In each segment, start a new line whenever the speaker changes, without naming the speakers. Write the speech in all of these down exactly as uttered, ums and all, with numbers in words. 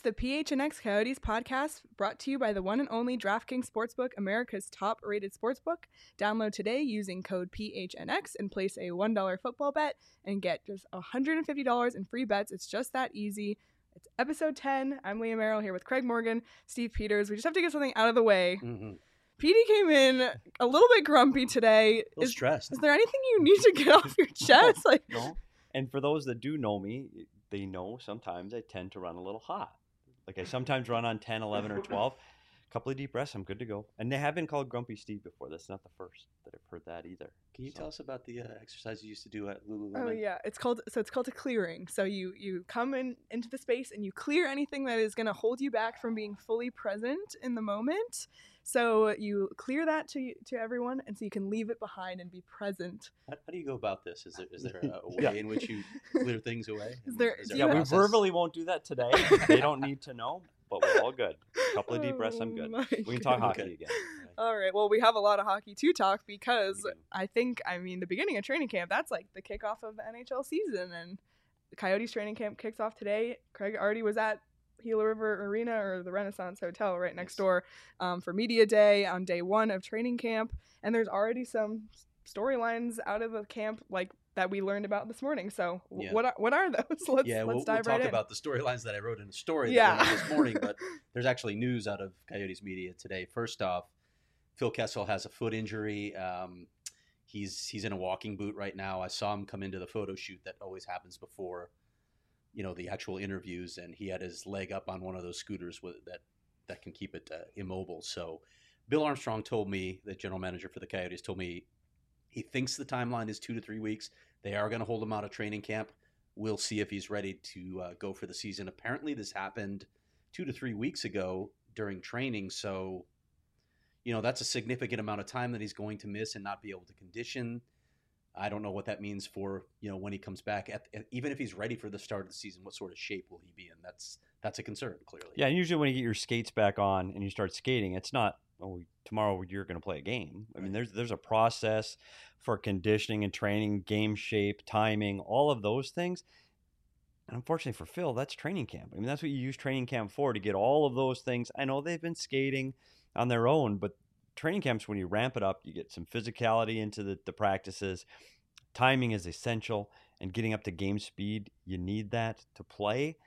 the P H N X Coyotes podcast, brought to you by the one and only DraftKings Sportsbook, America's top-rated sportsbook. Download today using code P H N X and place a one dollar football bet and get just one hundred fifty dollars in free bets. It's just that easy. It's episode ten. I'm Leah Merrill here with Craig Morgan, Steve Peters. We just have to get something out of the way.
Mm-hmm.
Petey came in a little bit grumpy today.
A little
is,
stressed.
Is there anything you need to get off your chest?
No,
like,
no. And for those that do know me, they know sometimes I tend to run a little hot. Like I sometimes run on ten, eleven, or twelve. A couple of deep breaths, I'm good to go. And they have been called Grumpy Steve before. That's not the first that I've heard that either.
Can you
so.
tell us about the uh, exercise you used to do at Lululemon?
Oh yeah, it's called so it's called a clearing. So you you come in into the space and you clear anything that is going to hold you back from being fully present in the moment. So you clear that to to everyone, and so you can leave it behind and be present.
How, how do you go about this? Is there is there a, a way
Yeah.
in which you clear things away?
Is there-
Is
do
Yeah,
you
we
have-
verbally won't do that today. They don't need to know, but we're all good. A couple of deep breaths, I'm good.
Oh my
We can talk
goodness.
hockey
Okay.
again.
All right. Well, we have a lot of hockey to talk because
We do.
I think, I mean, the beginning of training camp, that's like the kickoff of the N H L season. And the Coyotes training camp kicks off today. Craig already was at Gila River Arena or the Renaissance Hotel right next
Yes.
door um, for Media Day on day one of training camp. And there's already some storylines out of the camp like that we learned about this morning. So w-
Yeah.
what are, what are those? Let's,
yeah,
let's
we'll, we'll
dive
talk
right in.
about the storylines that I wrote in a story
Yeah.
that went out this morning, but there's actually news out of Coyotes media today. First off, Phil Kessel has a foot injury. Um, he's he's in a walking boot right now. I saw him come into the photo shoot that always happens before, you know, the actual interviews, and he had his leg up on one of those scooters with that that can keep it uh, immobile. So, Bill Armstrong told me, the general manager for the Coyotes, told me he thinks the timeline is two to three weeks. They are going to hold him out of training camp. We'll see if he's ready to uh, go for the season. Apparently, this happened two to three weeks ago during training. So, you know, that's a significant amount of time that he's going to miss and not be able to condition. I don't know what that means for, you know, when he comes back. At, at, even if he's ready for the start of the season, what sort of shape will he be in? That's that's a concern, clearly.
Yeah, and usually when you get your skates back on and you start skating, it's not, oh, tomorrow you're going to play a game. I mean, there's there's a process for conditioning and training, game shape, timing, all of those things. And unfortunately for Phil, that's training camp. I mean, that's what you use training camp for, to get all of those things. I know they've been skating on their own, but training camps, when you ramp it up, you get some physicality into the, the practices. Timing is essential, and getting up to game speed, you need that to play.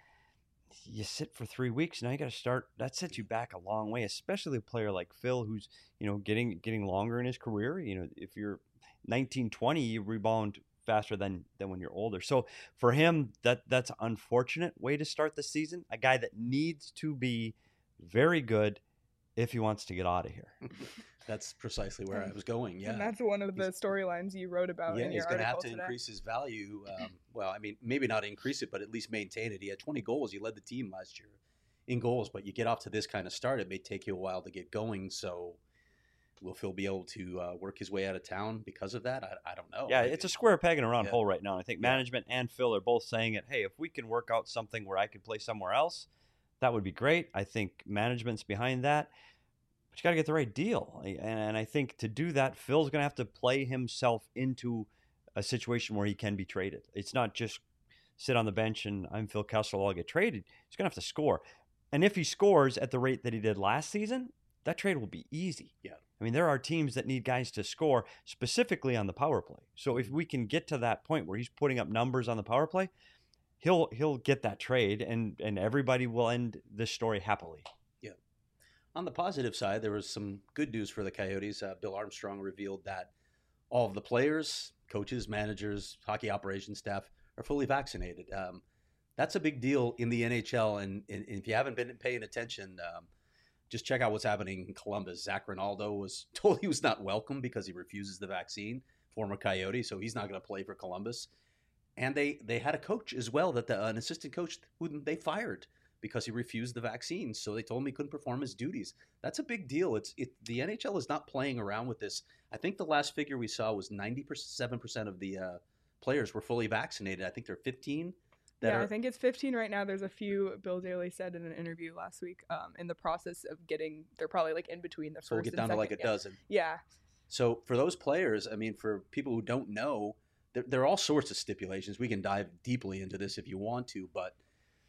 You sit for three weeks, now you got to start. That sets you back a long way, especially a player like Phil, who's, you know, getting getting longer in his career. You know, if you're nineteen, twenty, you rebound faster than than when you're older. So for him, that that's an unfortunate way to start the season. A guy that needs to be very good if he wants to get out of here.
That's precisely where I was going. Yeah.
And that's one of the storylines you wrote about
Yeah,
in your
he's going to have
article
to
today.
increase his value. Um, well, I mean, maybe not increase it, but at least maintain it. He had twenty goals. He led the team last year in goals, but you get off to this kind of start, it may take you a while to get going. So will Phil be able to uh, work his way out of town because of that? I, I don't know.
Yeah,
Maybe.
it's a square peg in a round
Yeah.
hole right now. And I think
Yeah.
management and Phil are both saying it. Hey, if we can work out something where I could play somewhere else, that would be great. I think management's behind that. But you got to get the right deal. And, and I think to do that, Phil's going to have to play himself into a situation where he can be traded. It's not just sit on the bench and I'm Phil Kessel, I'll get traded. He's going to have to score. And if he scores at the rate that he did last season, that trade will be easy.
Yeah.
I mean, there are teams that need guys to score specifically on the power play. So if we can get to that point where he's putting up numbers on the power play, he'll he'll get that trade, and and everybody will end this story happily.
Yeah. On the positive side, there was some good news for the Coyotes. Uh, Bill Armstrong revealed that all of the players, coaches, managers, hockey operations staff are fully vaccinated. Um, that's a big deal in the N H L, and, and if you haven't been paying attention, um, just check out what's happening in Columbus. Zach Rinaldo was told he was not welcome because he refuses the vaccine, former Coyote, so he's not going to play for Columbus. And they, they had a coach as well, that the, an assistant coach who they fired because he refused the vaccine. So they told him he couldn't perform his duties. That's a big deal. It's it, the N H L is not playing around with this. I think the last figure we saw was ninety-seven percent of the uh, players were fully vaccinated. I think there are fifteen. That
yeah,
are,
I think it's fifteen right now. There's a few, Bill Daly said in an interview last week, um, in the process of getting, they're probably like in between the
so we'll
first
get
and
down to like a
second, yeah.
dozen.
Yeah.
So for those players, I mean, for people who don't know, there, there are all sorts of stipulations. We can dive deeply into this if you want to, but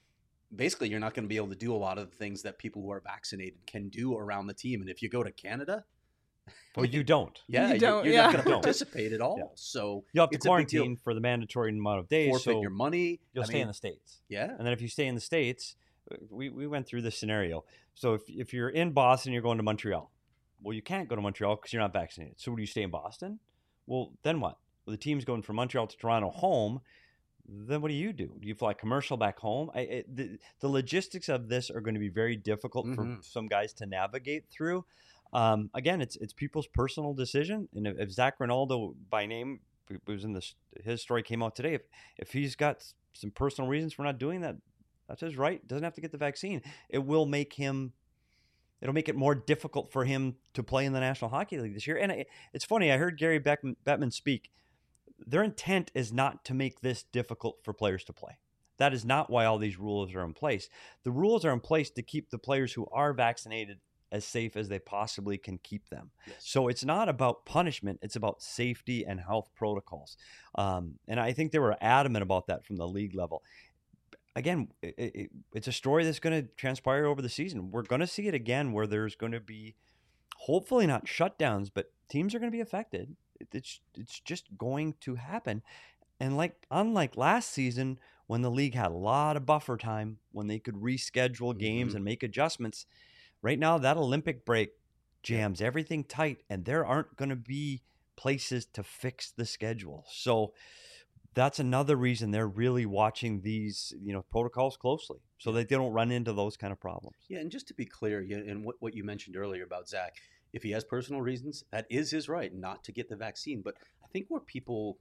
basically you're not going to be able to do a lot of the things that people who are vaccinated can do around the team. And if you go to Canada,
Well, you don't.
yeah,
You don't,
you're
yeah.
not going to
Don't.
participate at all.
Yeah.
So
You have to
it's a big deal.
quarantine for the mandatory amount of days.
Forfeit
so
your money.
You'll
I
stay
mean,
in the States.
Yeah.
And then if you stay in the States, we, we went through this scenario. So if, if you're in Boston, you're going to Montreal. Well, you can't go to Montreal because you're not vaccinated. So do you stay in Boston? Well, then what? Well, the team's going from Montreal to Toronto home. Then what do you do? Do you fly commercial back home? I, it, the, the logistics of this are going to be very difficult
Mhm.
for some guys to navigate through. Um, again, it's it's people's personal decision. And if, if Zach Ronaldo, by name, who was in this, his story came out today. If if he's got some personal reasons for not doing that, that's his right. Doesn't have to get the vaccine. It will make him. It'll make it more difficult for him to play in the National Hockey League this year. And it, it's funny. I heard Gary Bettman, Bettman speak. Their intent is not to make this difficult for players to play. That is not why all these rules are in place. The rules are in place to keep the players who are vaccinated as safe as they possibly can keep them.
Yes.
So it's not about punishment. It's about safety and health protocols. Um, and I think they were adamant about that from the league level. Again, it, it, it's a story that's going to transpire over the season. We're going to see it again where there's going to be, hopefully not shutdowns, but teams are going to be affected. It's it's just going to happen. And like unlike last season, when the league had a lot of buffer time, when they could reschedule games
Mhm.
and make adjustments, right now that Olympic break jams everything tight, and there aren't going to be places to fix the schedule. So that's another reason they're really watching these, you know, protocols closely so that they don't run into those kind of problems.
Yeah, and just to be clear, yeah, and what, what you mentioned earlier about Zach, if he has personal reasons, that is his right not to get the vaccine. But I think where people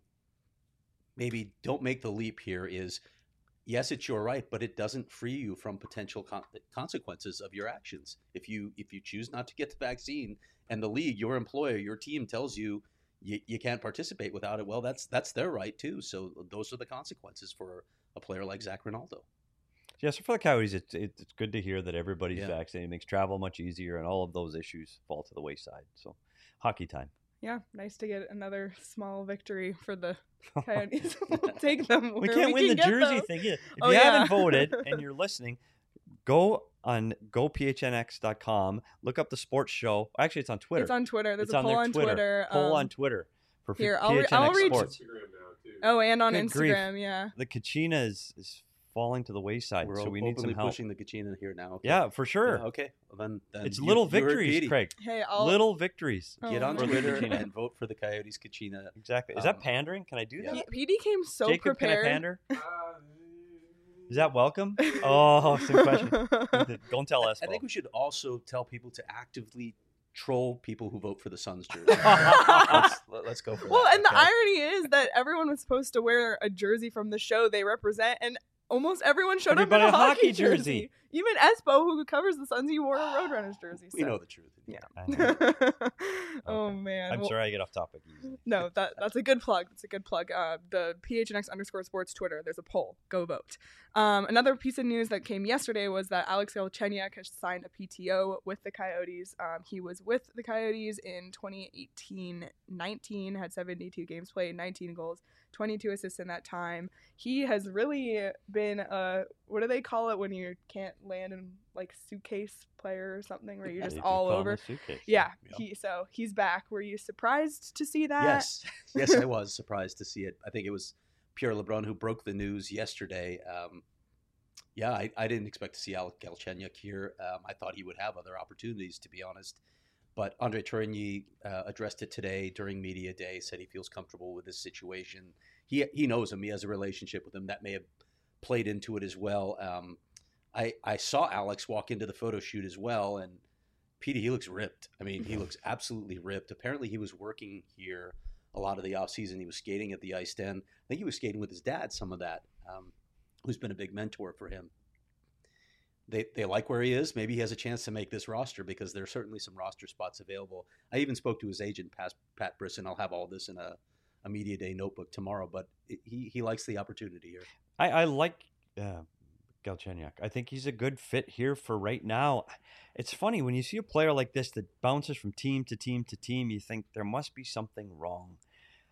maybe don't make the leap here is, yes, it's your right, but it doesn't free you from potential con- consequences of your actions. If you if you choose not to get the vaccine, and the league, your employer, your team tells you you, you can't participate without it, well, that's that's their right too. So those are the consequences for a player like Zach Ronaldo.
Yeah, so for the Coyotes, it's it's good to hear that everybody's
Yeah.
vaccinated. It makes travel much easier, and all of those issues fall to the wayside. So, hockey time.
Yeah, nice to get another small victory for the Coyotes. We'll take them.
We
where
can't win
can
the
get
jersey
them.
thing. Either. If
Oh,
you
yeah.
haven't voted and you're listening, go on go p h n x dot com. Look up the sports show. Actually, it's on Twitter.
It's on Twitter. There's
It's
a
on
poll
their
on Twitter.
Poll
um,
on Twitter for
here,
P-
I'll re-
P H N X
I'll reach-
Sports.
Instagram now too.
Oh, and on
Good grief.
Instagram, yeah.
The Kachina is, is falling to the wayside,
We're
so
o-
we need
openly
some help.
pushing the Kachina here now. Okay.
Yeah, for sure.
Yeah, okay. Well, then, then
It's
you-
little
you heard
victories,
Petey.
Craig.
Hey, I'll
Little victories.
Get
Oh,
on
man.
Twitter
Kachina.
and vote for the Coyotes Kachina.
Exactly. Is
Um,
that pandering? Can I do
yeah.
that?
P- Petey came so
Jacob,
prepared.
can I pander?
Uh,
Is that welcome? Oh, some question. Don't tell us.
I think we should also tell people to actively troll people who vote for the Suns jersey. let's, let's go for
Well,
that.
and the
okay?
irony is that everyone was supposed to wear a jersey from the show they represent, and almost everyone showed
Everybody
up in a
a hockey
hockey jersey.
jersey.
Even Espo, who covers the Suns, he wore a Roadrunners jersey.
We
so-
know the truth.
Yeah.
I know.
oh
Okay.
man.
I'm
Well,
sorry I get off topic easily.
No, that that's a good plug. That's a good plug. Uh, the P H N X underscore sports Twitter. There's a poll. Go vote. Um, another piece of news that came yesterday was that Alex Galchenyuk has signed a P T O with the Coyotes. Um, he was with the Coyotes in twenty eighteen nineteen, had seventy-two games played, nineteen goals, twenty-two assists in that time. He has really been a, what do they call it when you can't land in like suitcase player or something, where you're just
They do
all
call 'em
over.
a suitcase.
Yeah,
Yep.
he so he's back. Were you surprised to see that?
Yes, yes, I was surprised to see it. I think it was Pierre LeBrun who broke the news yesterday. Um, yeah, I, I didn't expect to see Alec Galchenyuk here. Um, I thought he would have other opportunities, to be honest. But Andre Tourigny uh, addressed it today during media day. Said he feels comfortable with this situation. He he knows him. He has a relationship with him. That may have played into it as well. Um, I I saw Alex walk into the photo shoot as well, and Petey, he looks ripped. I mean, he looks absolutely ripped. Apparently, he was working here a lot of the offseason. He was skating at the ice den. I think he was skating with his dad, some of that, um, who's been a big mentor for him. They they like where he is. Maybe he has a chance to make this roster because there's certainly some roster spots available. I even spoke to his agent, Pat, Pat Brisson. I'll have all this in a, a media day notebook tomorrow, but it, he, he likes the opportunity here.
I, I like uh, Galchenyuk. I think he's a good fit here for right now. It's funny when you see a player like this that bounces from team to team to team, you think there must be something wrong.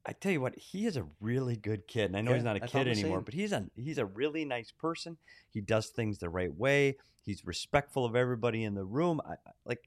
I tell you what, he is a really good kid, and I know
Yeah,
he's not a
I thought
kid
the
anymore,
same.
but he's a he's a really nice person. He does things the right way. He's respectful of everybody in the room. I, I- like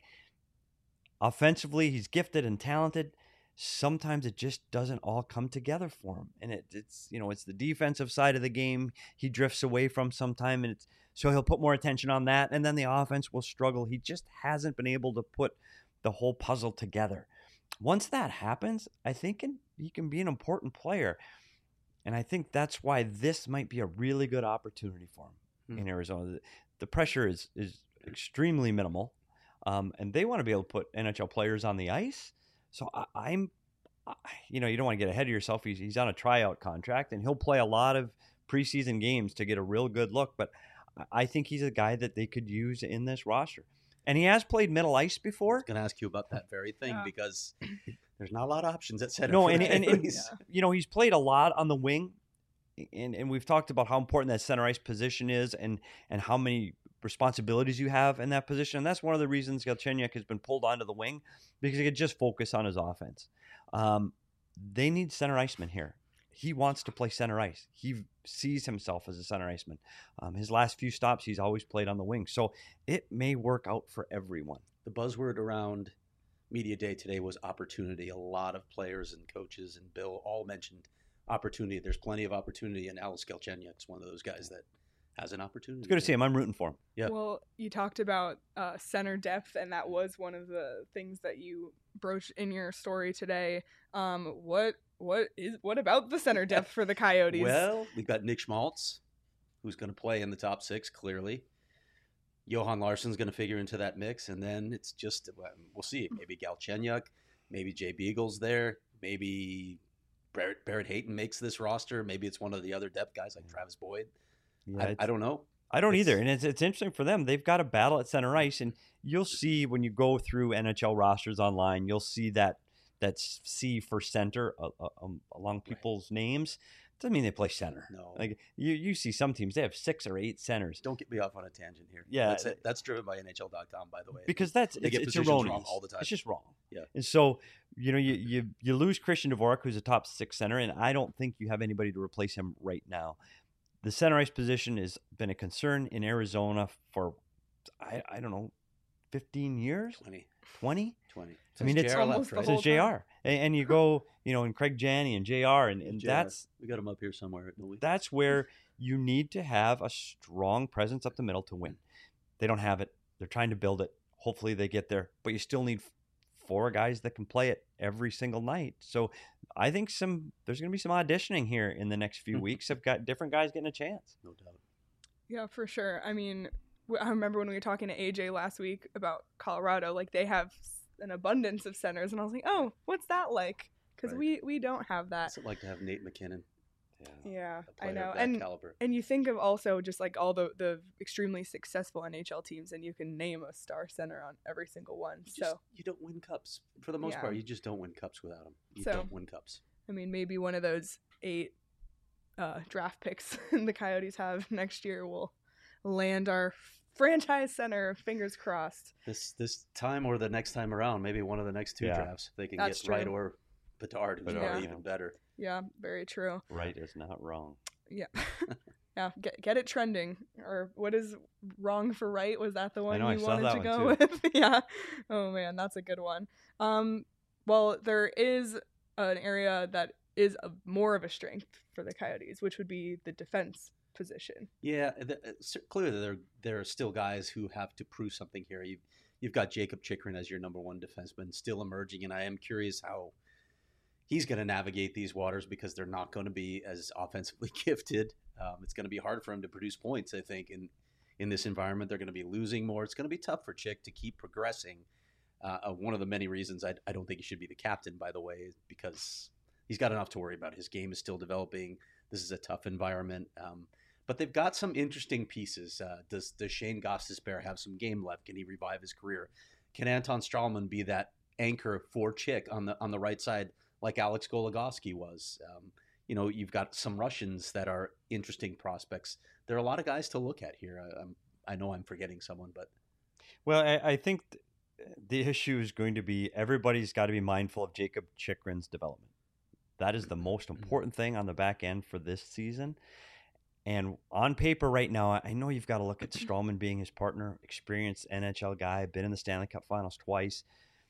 offensively, he's gifted and talented. Sometimes it just doesn't all come together for him, and it, it's you know it's the defensive side of the game he drifts away from sometime, and it's so he'll put more attention on that, and then the offense will struggle. He just hasn't been able to put the whole puzzle together. Once that happens, I think can, he can be an important player. And I think that's why this might be a really good opportunity for him
Hmm.
in Arizona. The, the pressure is is extremely minimal, um, and they want to be able to put N H L players on the ice. So I, I'm, I, you know, you don't want to get ahead of yourself. He's he's on a tryout contract, and he'll play a lot of preseason games to get a real good look. But I- I think he's a guy that they could use in this roster. And he has played middle ice
I
before.
was going to ask you about that very thing
Yeah.
because there's not a lot of options at center.
No,
for
and,
the
and, and
Coyotes.
you know, he's played a lot on the wing, and, and we've talked about how important that center ice position is and and how many responsibilities you have in that position. And that's one of the reasons Galchenyuk has been pulled onto the wing, because he could just focus on his offense. Um, they need center iceman here. He wants to play center ice. He sees himself as a center iceman. Um, his last few stops, he's always played on the wing. So it may work out for everyone.
The buzzword around media day today was opportunity. A lot of players and coaches and Bill all mentioned opportunity. There's plenty of opportunity, and Alex Galchenyuk's one of those guys that has an opportunity.
It's good to see him. I'm rooting for him.
Yeah.
Well, you talked about uh, center depth, and that was one of the things that you broached in your story today. Um, what what is what about the center depth for the Coyotes?
Well, we've got Nick Schmaltz, who's going to play in the top six, clearly. Johan Larsson's going to figure into that mix, and then it's just, well, we'll see. Maybe Galchenyuk, maybe Jay Beagle's there, maybe Barrett, Barrett Hayton makes this roster. Maybe it's one of the other depth guys like Travis Boyd.
Yeah,
I,
it's-
I don't know.
I don't
It's-
either, and it's it's interesting for them. They've got a battle at center ice, and you'll see when you go through N H L rosters online, you'll see that that C for center uh, uh, um, along people's names. Doesn't mean they play center.
No.
Like you, you see some teams they have six or eight centers
Don't get me off on a tangent here.
Yeah.
That's, it. That's driven by N H L dot com, by the way.
because that's
They
it's,
get
it's
positions wrong
erroneous
all the time.
It's just wrong.
Yeah.
And so you know you you you lose Christian Dvorak, who's a top six center, and I don't think you have anybody to replace him right now. The center ice position has been a concern in Arizona for I I don't know, fifteen years,
twenty.
twenty.
twenty.
I mean,
Since
it's
J R left,
almost the
right?
whole
Since J R. And, and you go, you know, and Craig Janney and J R, and, and
J R.
that's
We got him up here somewhere, don't we?
that's where you need to have a strong presence up the middle to win. They don't have it. They're trying to build it. Hopefully they get there, but you still need four guys that can play it every single night. So I think some there's going to be some auditioning here in the next few weeks. I've got different guys getting a chance.
No doubt.
Yeah, for sure. I mean, w- I remember when we were talking to A J last week about Colorado, like they have s- an abundance of centers, and I was like, oh, what's that like? Because
Right.
we we don't have that.
What's it like to have Nate McKinnon,
Yeah,
a
I
player
know.
of that
And
caliber?
and you think of also just like all the the extremely successful N H L teams, and you can name a star center on every single one.
You just-
So
you don't win cups for the most
Yeah.
part. You just don't win cups without them. You
So-
don't win cups.
I mean, maybe one of those eight uh, draft picks the Coyotes have next year will land our franchise center. Fingers crossed.
This this time or the next time around, maybe one of the next two
Yeah.
drafts, if they can
That's
get Wright
true.
or Bedard, who's
Bedard,
probably
yeah.
even better.
Yeah, very true.
Right is not wrong.
Yeah. Yeah, get get it trending. Or what is wrong for right? Was that the one
know, I
you
saw
wanted
that
to
one
go with? Yeah. Oh man, that's a good one. Um, well, there is an area that is a, more of a strength for the Coyotes, which would be the defense position.
Yeah, th- uh, cer- clearly there there are still guys who have to prove something here. You've you've got Jacob Chikrin as your number one defenseman, still emerging, and I am curious how he's going to navigate these waters because they're not going to be as offensively gifted. Um, it's going to be hard for him to produce points, I think, in in this environment. They're going to be losing more. It's going to be tough for Chick to keep progressing. Uh, uh, one of the many reasons I, I don't think he should be the captain, by the way, is because he's got enough to worry about. His game is still developing. This is a tough environment. Um, but they've got some interesting pieces. Uh, does does Shane Gostisbehere have some game left? Can he revive his career? Can Anton Strahlman be that anchor for Chick on the on the right side, like Alex Goligoski was? Um, you know, you've got some Russians that are interesting prospects. There are a lot of guys to look at here. I, I'm, I know I'm forgetting someone, but
Well, I, I think th- the issue is going to be everybody's got to be mindful of Jacob Chikrin's development. That is the most important thing on the back end for this season. And on paper right now, I know you've got to look at Strowman being his partner, experienced N H L guy, been in the Stanley Cup Finals twice.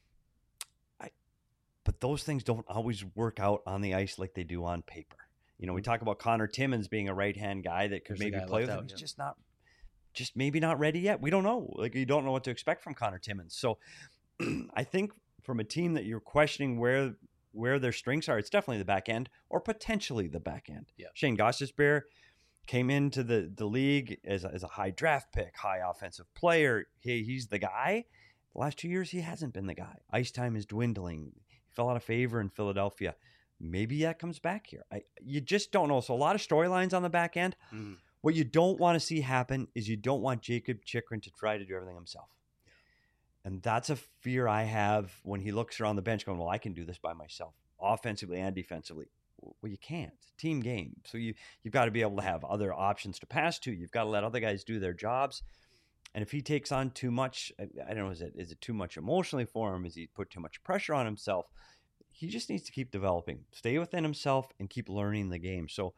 I, but those things don't always work out on the ice like they do on paper. You know, we talk about Connor Timmins being a right-hand guy that could
There's the
maybe
guy
play with
left
him.
out,
He's
yeah.
just not, just maybe not ready yet. We don't know. Like, you don't know what to expect from Connor Timmins. So I think from a team that you're questioning where where their strengths are, it's definitely the back end or potentially the back end.
Yeah.
Shane Gostisbehere came into the, the league as a, as a high draft pick, high offensive player. He, he's the guy. The last two years, he hasn't been the guy. Ice time is dwindling. He fell out of favor in Philadelphia. Maybe that comes back here. I, you just don't know. So a lot of storylines on the back end.
Mm.
What you don't want to see happen is you don't want Jacob Chychrun to try to do everything himself. And that's a fear I have when he looks around the bench going, well, I can do this by myself, offensively and defensively. Well, you can't. Team game. So you, you've got to be able to have other options to pass to. You've got to let other guys do their jobs. And if he takes on too much, I, I don't know, is it is it too much emotionally for him? Is he put too much pressure on himself? He just needs to keep developing, stay within himself, and keep learning the game. So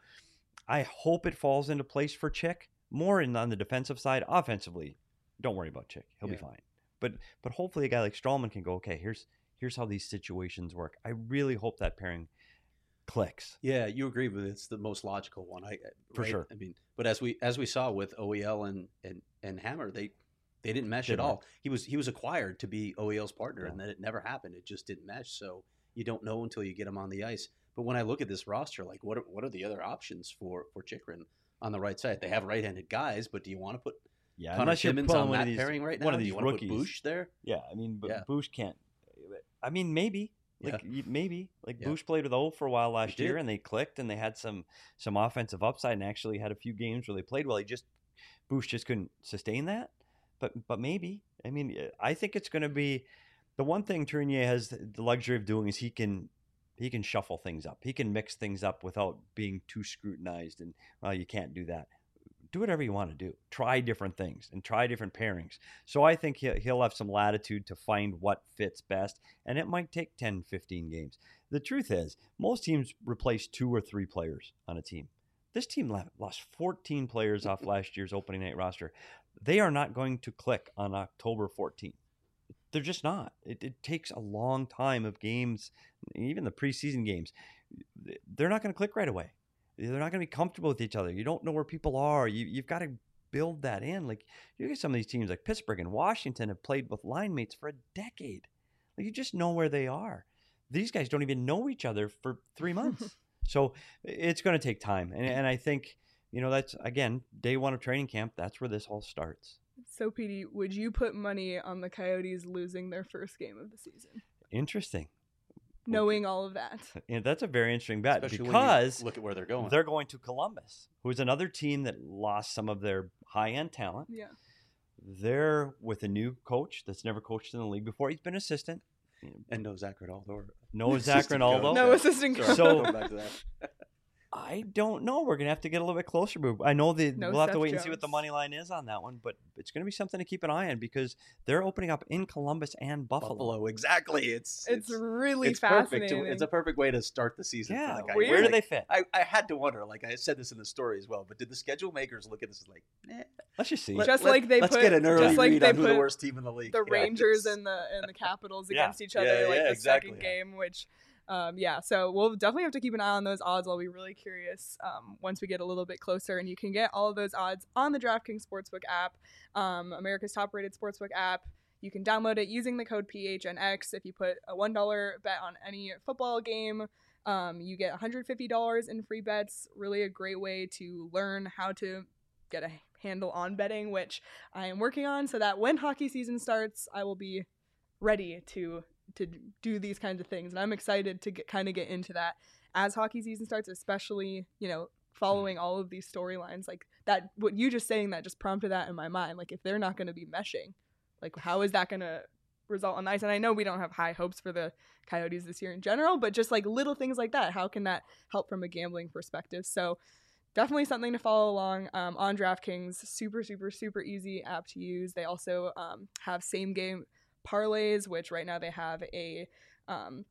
I hope it falls into place for Chick. More in, on the defensive side. Offensively, don't worry about Chick. He'll
Yeah.
be fine. But but hopefully a guy like Strowman can go, okay, here's here's how these situations work. I really hope that pairing clicks.
Yeah, you agree with it. It's the most logical one. I
For
right?
sure.
I mean, but as we as we saw with O E L and and, and Hammer, they they didn't mesh
Didn't
at all. He was he was acquired to be O E L's partner,
Yeah.
and then it never happened. It just didn't mesh. So you don't know until you get him on the ice. But when I look at this roster, like what are, what are the other options for for Chychrun on the right side? They have right-handed guys, but do you want to put
Yeah,
Connor
unless you're
Timmins
pulling
on
one
that
of these,
pairing right now?
one of
do
these
you want to
rookies.
put Bush there?
Yeah, I mean, but
Yeah.
Bush can't. I mean, maybe. Like y- maybe like
Yeah.
Bush played with O for a while last
He
year,
did.
and they clicked, and they had some some offensive upside, and actually had a few games where they played well. He just Bush just couldn't sustain that, but but maybe. I mean, I think it's going to be the one thing Tournier has the luxury of doing is he can he can shuffle things up. He can mix things up without being too scrutinized. And well, you can't do that. Do whatever you want to do. Try different things and try different pairings. So I think he'll, he'll have some latitude to find what fits best. And it might take ten, fifteen games. The truth is, most teams replace two or three players on a team. This team left, lost fourteen players off last year's opening night roster. They are not going to click on October fourteenth. They're just not. It, it takes a long time of games, even the preseason games. They're not going to click right away. They're not going to be comfortable with each other. You don't know where people are. You, you've got to build that in. Like, you get some of these teams like Pittsburgh and Washington have played with line mates for a decade. Like, you just know where they are. These guys don't even know each other for three months. So it's going to take time. And, and I think, you know, that's, again, day one of training camp. That's where this all starts.
So, P D, would you put money on the Coyotes losing their first game of the season,
Interesting.
knowing all of that?
And that's a very interesting bet
Especially
because
when you look at where they're going.
they're going to Columbus, who's another team that lost some of their high-end talent.
Yeah.
They're with a new coach that's never coached in the league before. He's been assistant.
and no Zach Rinaldo.
No Zach
Assistant
Rinaldo.
coach.
No
Yeah.
assistant
Sorry,
coach.
So-
going back to that.
I don't know. We're gonna have to get a little bit closer. But I know that
No
we'll have to
Seth
wait and see what the
Jones.
money line is on that one. But it's gonna be something to keep an eye on because they're opening up in Columbus and Buffalo.
Buffalo, exactly. It's
It's really
it's perfect.
fascinating.
To, it's a perfect way to start the season.
Yeah.
for the
Weird.
Where do
Like,
they fit?
I, I had to wonder. Like I said this in the story as well. But did the schedule makers look at this as like, eh,
Let's just see.
let-
Just
let-
like they
let's
put-
get an early
just like
read
they
on who the
put
worst team in the league.
the
Yeah,
Rangers
it's-
and the and the Capitals
Yeah.
against each
Yeah,
other, like
yeah,
the
exactly.
second game, which. Um, yeah, so we'll definitely have to keep an eye on those odds. I'll be really curious um, once we get a little bit closer. And you can get all of those odds on the DraftKings Sportsbook app, um, America's top-rated sportsbook app. You can download it using the code P H N X. If you put a one dollar bet on any football game, um, you get one hundred fifty dollars in free bets. Really a great way to learn how to get a handle on betting, which I am working on, so that when hockey season starts, I will be ready to to do these kinds of things. And I'm excited to get, kind of get into that as hockey season starts, especially, you know, following all of these storylines. Like that, what you just saying that just prompted that in my mind. Like if they're not going to be meshing, like how is that going to result on the ice? And I know we don't have high hopes for the Coyotes this year in general, but just like little things like that, how can that help from a gambling perspective? So definitely something to follow along um, on DraftKings. Super, super, super easy app to use. They also um, have same game parlays, which right now they have a um,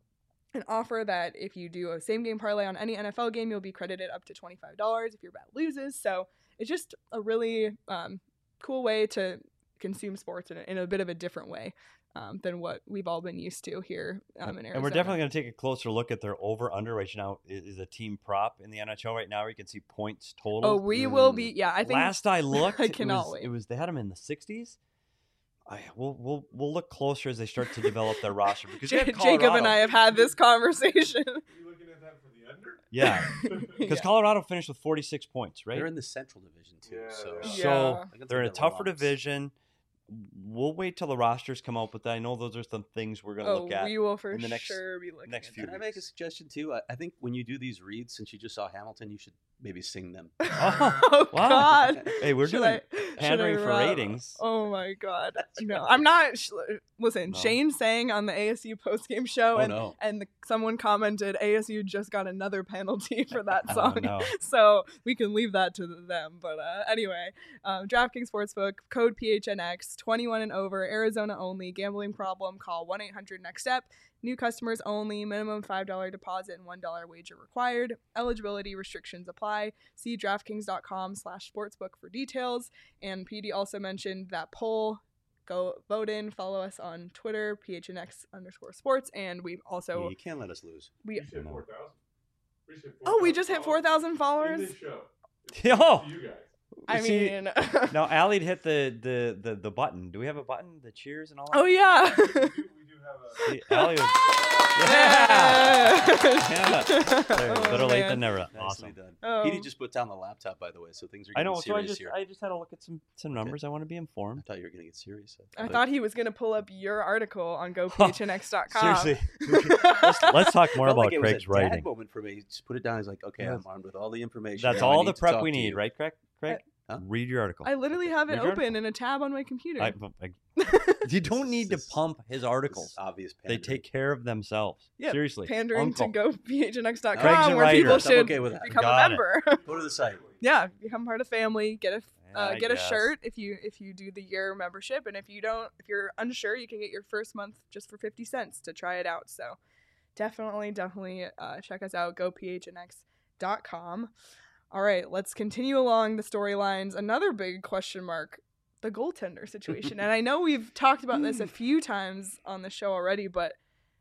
an offer that if you do a same game parlay on any N F L game, you'll be credited up to twenty-five dollars if your bet loses. So it's just a really um, cool way to consume sports in a, in a bit of a different way um, than what we've all been used to here um, in Arizona.
And we're definitely going to take a closer look at their over-under right now. Is a team prop in the N H L right now where you can see points total.
Oh, we mm. will be. Yeah, I think.
Last I looked,
I cannot
it was,
wait.
It was they had them in the sixties. I, we'll we'll we'll look closer as they start to develop their roster because
J- Jacob and I have had this conversation.
Are you looking at that for the under?
Yeah, because
Yeah.
Colorado finished with forty-six points, right?
They're in the Central Division too,
Yeah,
so
they are.
So
Yeah.
they're in a
Double
tougher
loss.
division. We'll wait till the rosters come out, but I know those are some things we're going to
Oh,
look at.
we will for
in the next-
sure be looking
next
at
few
that.
Can I make a suggestion too? I, I think when you do these reads, since you just saw Hamilton, you should maybe sing them.
Oh,
wow.
God.
Hey, we're
Should
doing
I- should
pandering
I
for
rub-
ratings.
Oh my God! No, I'm not. Sh- listen,
No.
Shane sang on the A S U postgame show,
Oh
and
no!
and the, someone commented A S U just got another penalty for that
Oh,
song.
no.
So we can leave that to them. But uh, anyway, um, DraftKings Sportsbook, code P H N X, twenty-one and over, Arizona only. Gambling problem? Call one eight hundred next step. New customers only. Minimum five dollars deposit and one dollar wager required. Eligibility restrictions apply. See DraftKings.com slash sportsbook for details. And P D also mentioned that poll. Go vote in. Follow us on Twitter, P H N X underscore sports. And we also...
Yeah, you can't let us lose.
we
We just hit four thousand. We just hit
Oh, we just hit four thousand followers?
In this show. It's
Yo!
to you guys.
I
See,
mean...
Now, Allie'd hit the, the, the, the button. Do we have a button? The cheers and all that?
Oh, yeah.
We do, we do have a...
See, Allie was...
Yeah.
Yeah. There,
Oh,
better late
man.
than never.
Nicely
Awesome.
done.
Oh.
Petey just put down the laptop, by the way, so things are
I
getting
know, so I
serious
just
here.
I just had to look at some, some numbers. I want to be
I
informed.
thought you were going to get serious.
I thought he was going to pull up your article on go P H N X dot com.
Seriously. let's, let's talk more
Felt
about
like it was
Craig's
a dad
writing.
moment for me. He just put it down. He's like, okay,
Yes.
I'm armed with all the information.
That's
now I
all
need
the
to
prep
talk
we
to
need,
you."
right, Craig? Craig?
Huh?
Read your article.
I literally have it
Read your
open in a tab on my computer.
I, I, you don't need to
This is-
pump his
This
articles.
is obvious
They
pandering.
take care of themselves.
Yeah,
Seriously.
Pandering
Uncle.
to go P H N X dot
Craig's
com
a
where
writer.
people
I'm
should
okay with that.
become
Got
a
it.
member.
Go to the site.
Yeah, become part of the family. Get a uh,
I
get a
guess.
shirt if you if you do the year membership, and if you don't, if you're unsure, you can get your first month just for fifty cents to try it out. So definitely, definitely uh, check us out. go P H N X dot com. All right, let's continue along the storylines. Another big question mark: the goaltender situation. And I know we've talked about this a few times on the show already, but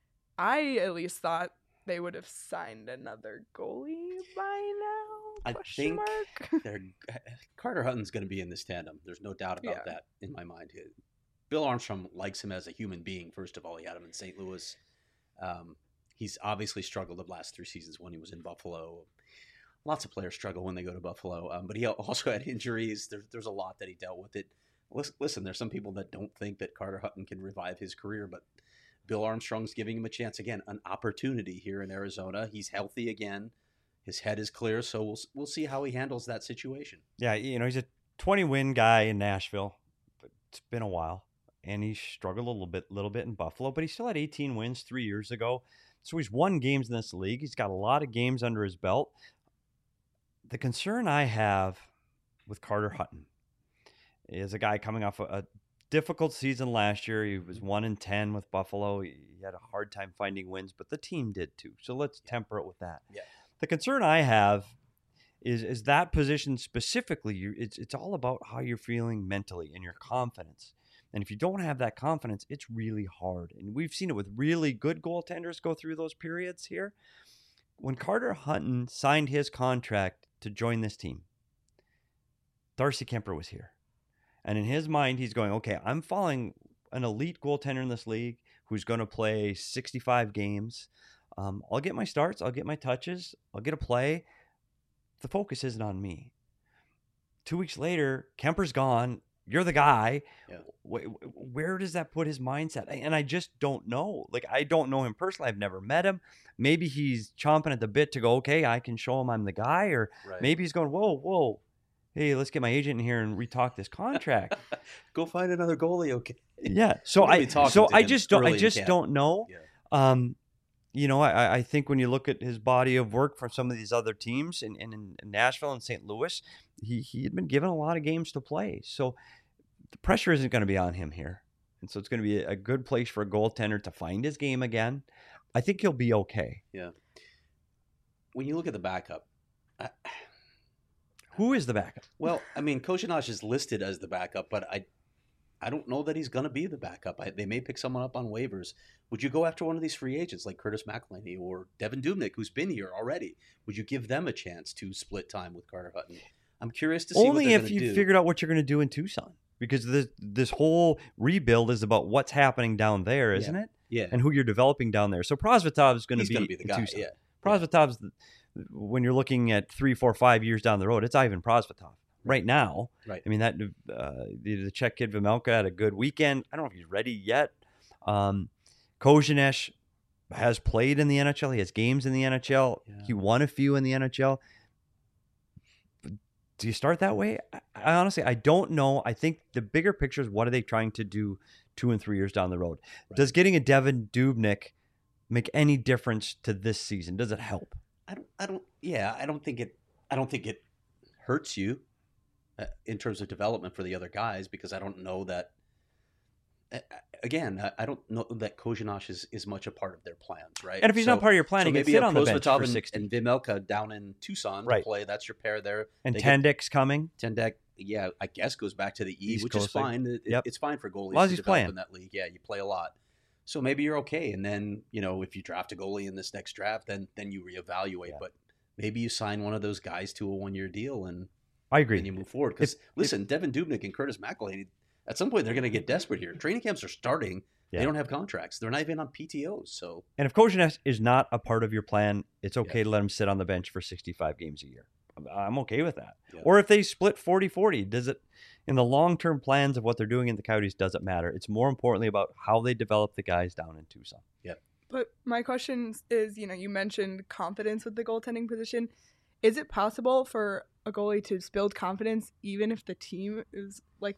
I at least thought they would have signed another goalie by now.
I
Question
think
mark?
They're, Carter Hutton's going to be in this tandem. There's no doubt about
Yeah.
that in my mind. Bill Armstrong likes him as a human being. First of all, he had him in Saint Louis. Um, he's obviously struggled the last three seasons when he was in Buffalo. Lots of players struggle when they go to Buffalo, um, but he also had injuries. There, there's a lot that he dealt with. It. Listen, listen, there's some people that don't think that Carter Hutton can revive his career, but Bill Armstrong's giving him a chance again, an opportunity here in Arizona. He's healthy again. His head is clear, so we'll we'll see how he handles that situation.
Yeah, you know, he's a twenty win guy in Nashville. But it's been a while. And he struggled a little bit little bit in Buffalo, but he still had eighteen wins three years ago. So he's won games in this league. He's got a lot of games under his belt. The concern I have with Carter Hutton is a guy coming off a, a difficult season last year. He was one and ten with Buffalo. He had a hard time finding wins, but the team did too. So let's temper it with that.
Yeah.
The concern I have is is that position specifically. You, it's it's all about how you're feeling mentally and your confidence. And if you don't have that confidence, it's really hard. And we've seen it with really good goaltenders go through those periods here. When Carter Hutton signed his contract to join this team, Darcy Kemper was here. And in his mind, he's going, okay, I'm following an elite goaltender in this league who's going to play sixty-five games. Um, I'll get my starts. I'll get my touches. I'll get a play. The focus isn't on me. Two weeks later, Kemper's gone. You're the guy.
Yeah.
Wh- Where does that put his mindset? And I just don't know. Like, I don't know him personally. I've never met him. Maybe he's chomping at the bit to go, okay, I can show him I'm the guy. Or
Right.
maybe he's going, whoa, whoa. Hey, let's get my agent in here and retalk this contract.
Go find another goalie, okay?
Yeah. So
I'm gonna
I
be talking
so
to
I
him
just don't I
early in
just
camp.
don't know.
Yeah.
Um, you know, I, I think when you look at his body of work from some of these other teams in, in, in Nashville and Saint Louis, he he had been given a lot of games to play. So the pressure isn't going to be on him here. And so it's going to be a good place for a goaltender to find his game again. I think he'll be okay.
Yeah. When you look at the backup, I,
Who is the backup?
well, I mean, Kozhinash is listed as the backup, but I, I don't know that he's going to be the backup. I, they may pick someone up on waivers. Would you go after one of these free agents like Curtis McElhinney or Devin Dubnyk, who's been here already? Would you give them a chance to split time with Carter Hutton? I'm curious to see
Only
what they're
if
gonna
you
do.
figured out what you're going to do in Tucson, because this this whole rebuild is about what's happening down there, isn't it?
Yeah,
And who you're developing down there. So Prosvetov is going to
he's
be,
going to be the
in
guy.
Tucson.
Yeah,
Prosvetov's, when you're looking at three, four, five years down the road, it's Ivan Prosvetov. Right now,
Right.
I mean, that uh, the, the Czech kid Vimelka had a good weekend. I don't know if he's ready yet. Um, Kozhinash has played in the N H L. He has games in the N H L.
Yeah.
He won a few in the N H L. Do you start that way? I, I honestly, I don't know. I think the bigger picture is what are they trying to do two and three years down the road?
Right.
Does getting a Devin Dubnyk make any difference to this season? Does it help?
I don't. I don't. Yeah, I don't think it. I don't think it hurts you uh, in terms of development for the other guys because I don't know that. Uh, again, I, I don't know that Kozhinash is, is much a part of their plans, right?
And if he's
So-
not part of your plan,
so
he can
maybe
sit
a
on the bench
Prosvetov
for
and,
sixty.
and Vimelka down in Tucson
Right.
to play. That's your pair there.
And
they get-
Tendik's coming.
Tendek, yeah, I guess goes back to the E,
East
which is
Coasting.
fine. It-
Yep.
It's fine for goalies
As long as
to
he's
develop
playing.
in that league. Yeah, you play a lot. So maybe you're okay. And then, you know, if you draft a goalie in this next draft, then then you reevaluate.
Yeah.
But maybe you sign one of those guys to a one-year deal and,
I agree.
and you move forward. Because,
If-
listen, Devin Dubnyk and Curtis McElhinney, at some point they're going to get desperate here. Training camps are starting.
Yeah.
They don't have contracts. They're not even on P T Os. So,
And if Kozhinash is not a part of your plan, it's okay to let him sit on the bench for sixty-five games a year. I'm- I'm okay with that.
Yeah.
Or if they split forty forty, does it, in the long-term plans of what they're doing in the Coyotes, does it matter? It's more importantly about how they develop the guys down in Tucson.
But my question is, you know, you mentioned confidence with the goaltending position. Is it possible for a goalie to build confidence even if the team is like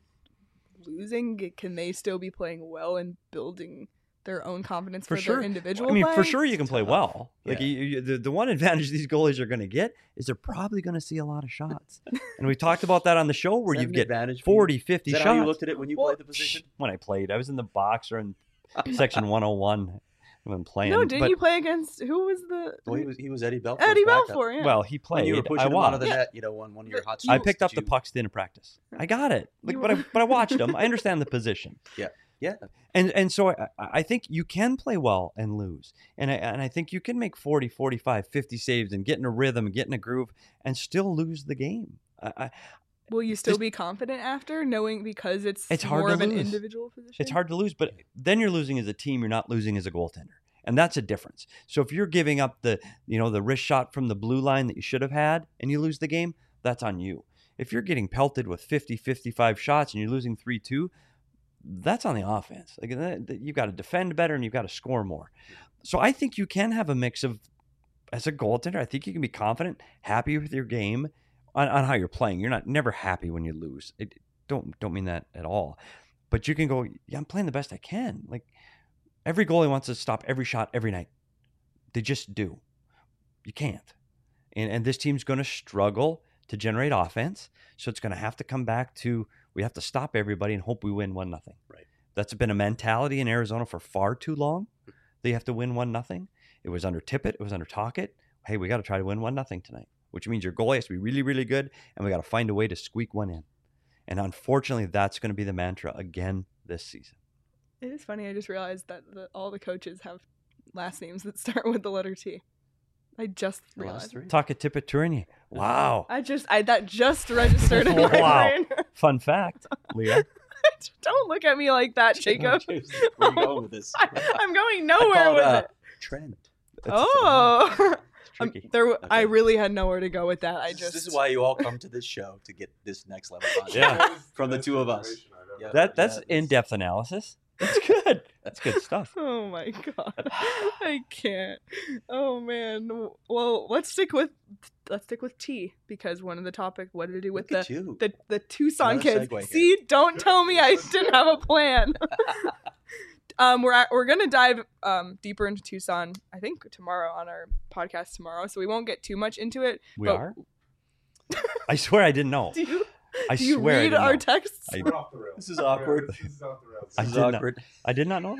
losing? Can they still be playing well and building their own confidence
For
for,
sure.
their individual
I mean,
play?
for sure you can play
tough.
well. Like
Yeah.
you, you, the, the one advantage these goalies are going to get is they're probably going to see a lot of shots. And we talked about that on the show where
Is that
you
an
get
advantage for you?
forty, fifty
Is that
shots.
how you looked at it when you
Well,
played the position?
When I played, I was in the box or in section one oh one when playing.
No, didn't
but,
you play against who was the
Well, he was he was Eddie Belfour's
Eddie
backup.
Balfour? Yeah.
Well, he played.
When you were pushing
I
him out of the
watched.
net, you know, on one of your hot
I
streaks,
picked
did
up the
you-
pucks in practice. I got it. Like,
You
but I
were-
but I watched them. I understand the position.
Yeah,
And and so I, I think you can play well and lose. And I, and I think you can make forty, forty-five, fifty saves and get in a rhythm and get in a groove and still lose the game. I, I,
Will you still
Just-
be confident after knowing because it's,
It's hard
more
to
of an
lose.
individual position?
it's hard to lose, but then you're losing as a team. You're not losing as a goaltender. And that's a difference. So if you're giving up the, you know, the wrist shot from the blue line that you should have had and you lose the game, that's on you. If you're getting pelted with fifty, fifty-five shots and you're losing three two, that's on the offense. Like that- that- you've got to defend better and you've got to score more. So I think you can have a mix of, as a goaltender, I think you can be confident, happy with your game on, on how you're playing. You're not never happy when you lose. It, don't don't mean that at all. But you can go, yeah, I'm playing the best I can. Like every goalie wants to stop every shot every night. They just do. You can't. And and this team's going to struggle to generate offense. So it's going to have to come back to, we have to stop everybody and hope we win one nothing.
Right.
That's been a mentality in Arizona for far too long. They have to win one nothing. It was under Tippett. It was under Tocchet. Hey, we got to try to win one nothing tonight, which means your goalie has to be really, really good, and we got to find a way to squeak one in. And unfortunately, that's going to be the mantra again this season.
It is funny. I just realized that the, all the coaches have last names that start with the letter T. I just
The last
realized.
three.
Tocchet, Tippett, Tourigny. Wow.
I just I that just registered in my
Wow.
brain.
Fun fact, Leah.
Don't look at me like that, Jacob.
Where are you going with this?
I, I'm going
I
nowhere
call
with
it, uh,
it.
trend.
Oh,
It's
Um,
tricky.
there. I
Okay.
really had nowhere to go with that. I
This-
just
This is why you all come to this show to get this next level content.
Yeah.
That is
From the
best
two of us.
information I've ever
Yeah.
heard.
That that's
Yeah, it's-
in-depth analysis. That's good. That's good stuff.
Oh my god, I can't. Oh man. Well, let's stick with let's stick with T because one of the topic what did it do with
Look at
the
you.
the the Tucson
Another
kids.
segue here.
See, don't tell me I didn't have a plan. um, we're at, we're gonna dive um deeper into Tucson. I think tomorrow on our podcast tomorrow, so we won't get too much into it.
We
but
are? I swear I didn't know.
Do you
I
do you
swear I
read
didn't
our
know.
texts?
I-
We're off the rails.
This is awkward.
This is off the rails.
I
This is
did not-
awkward.
I did not know that.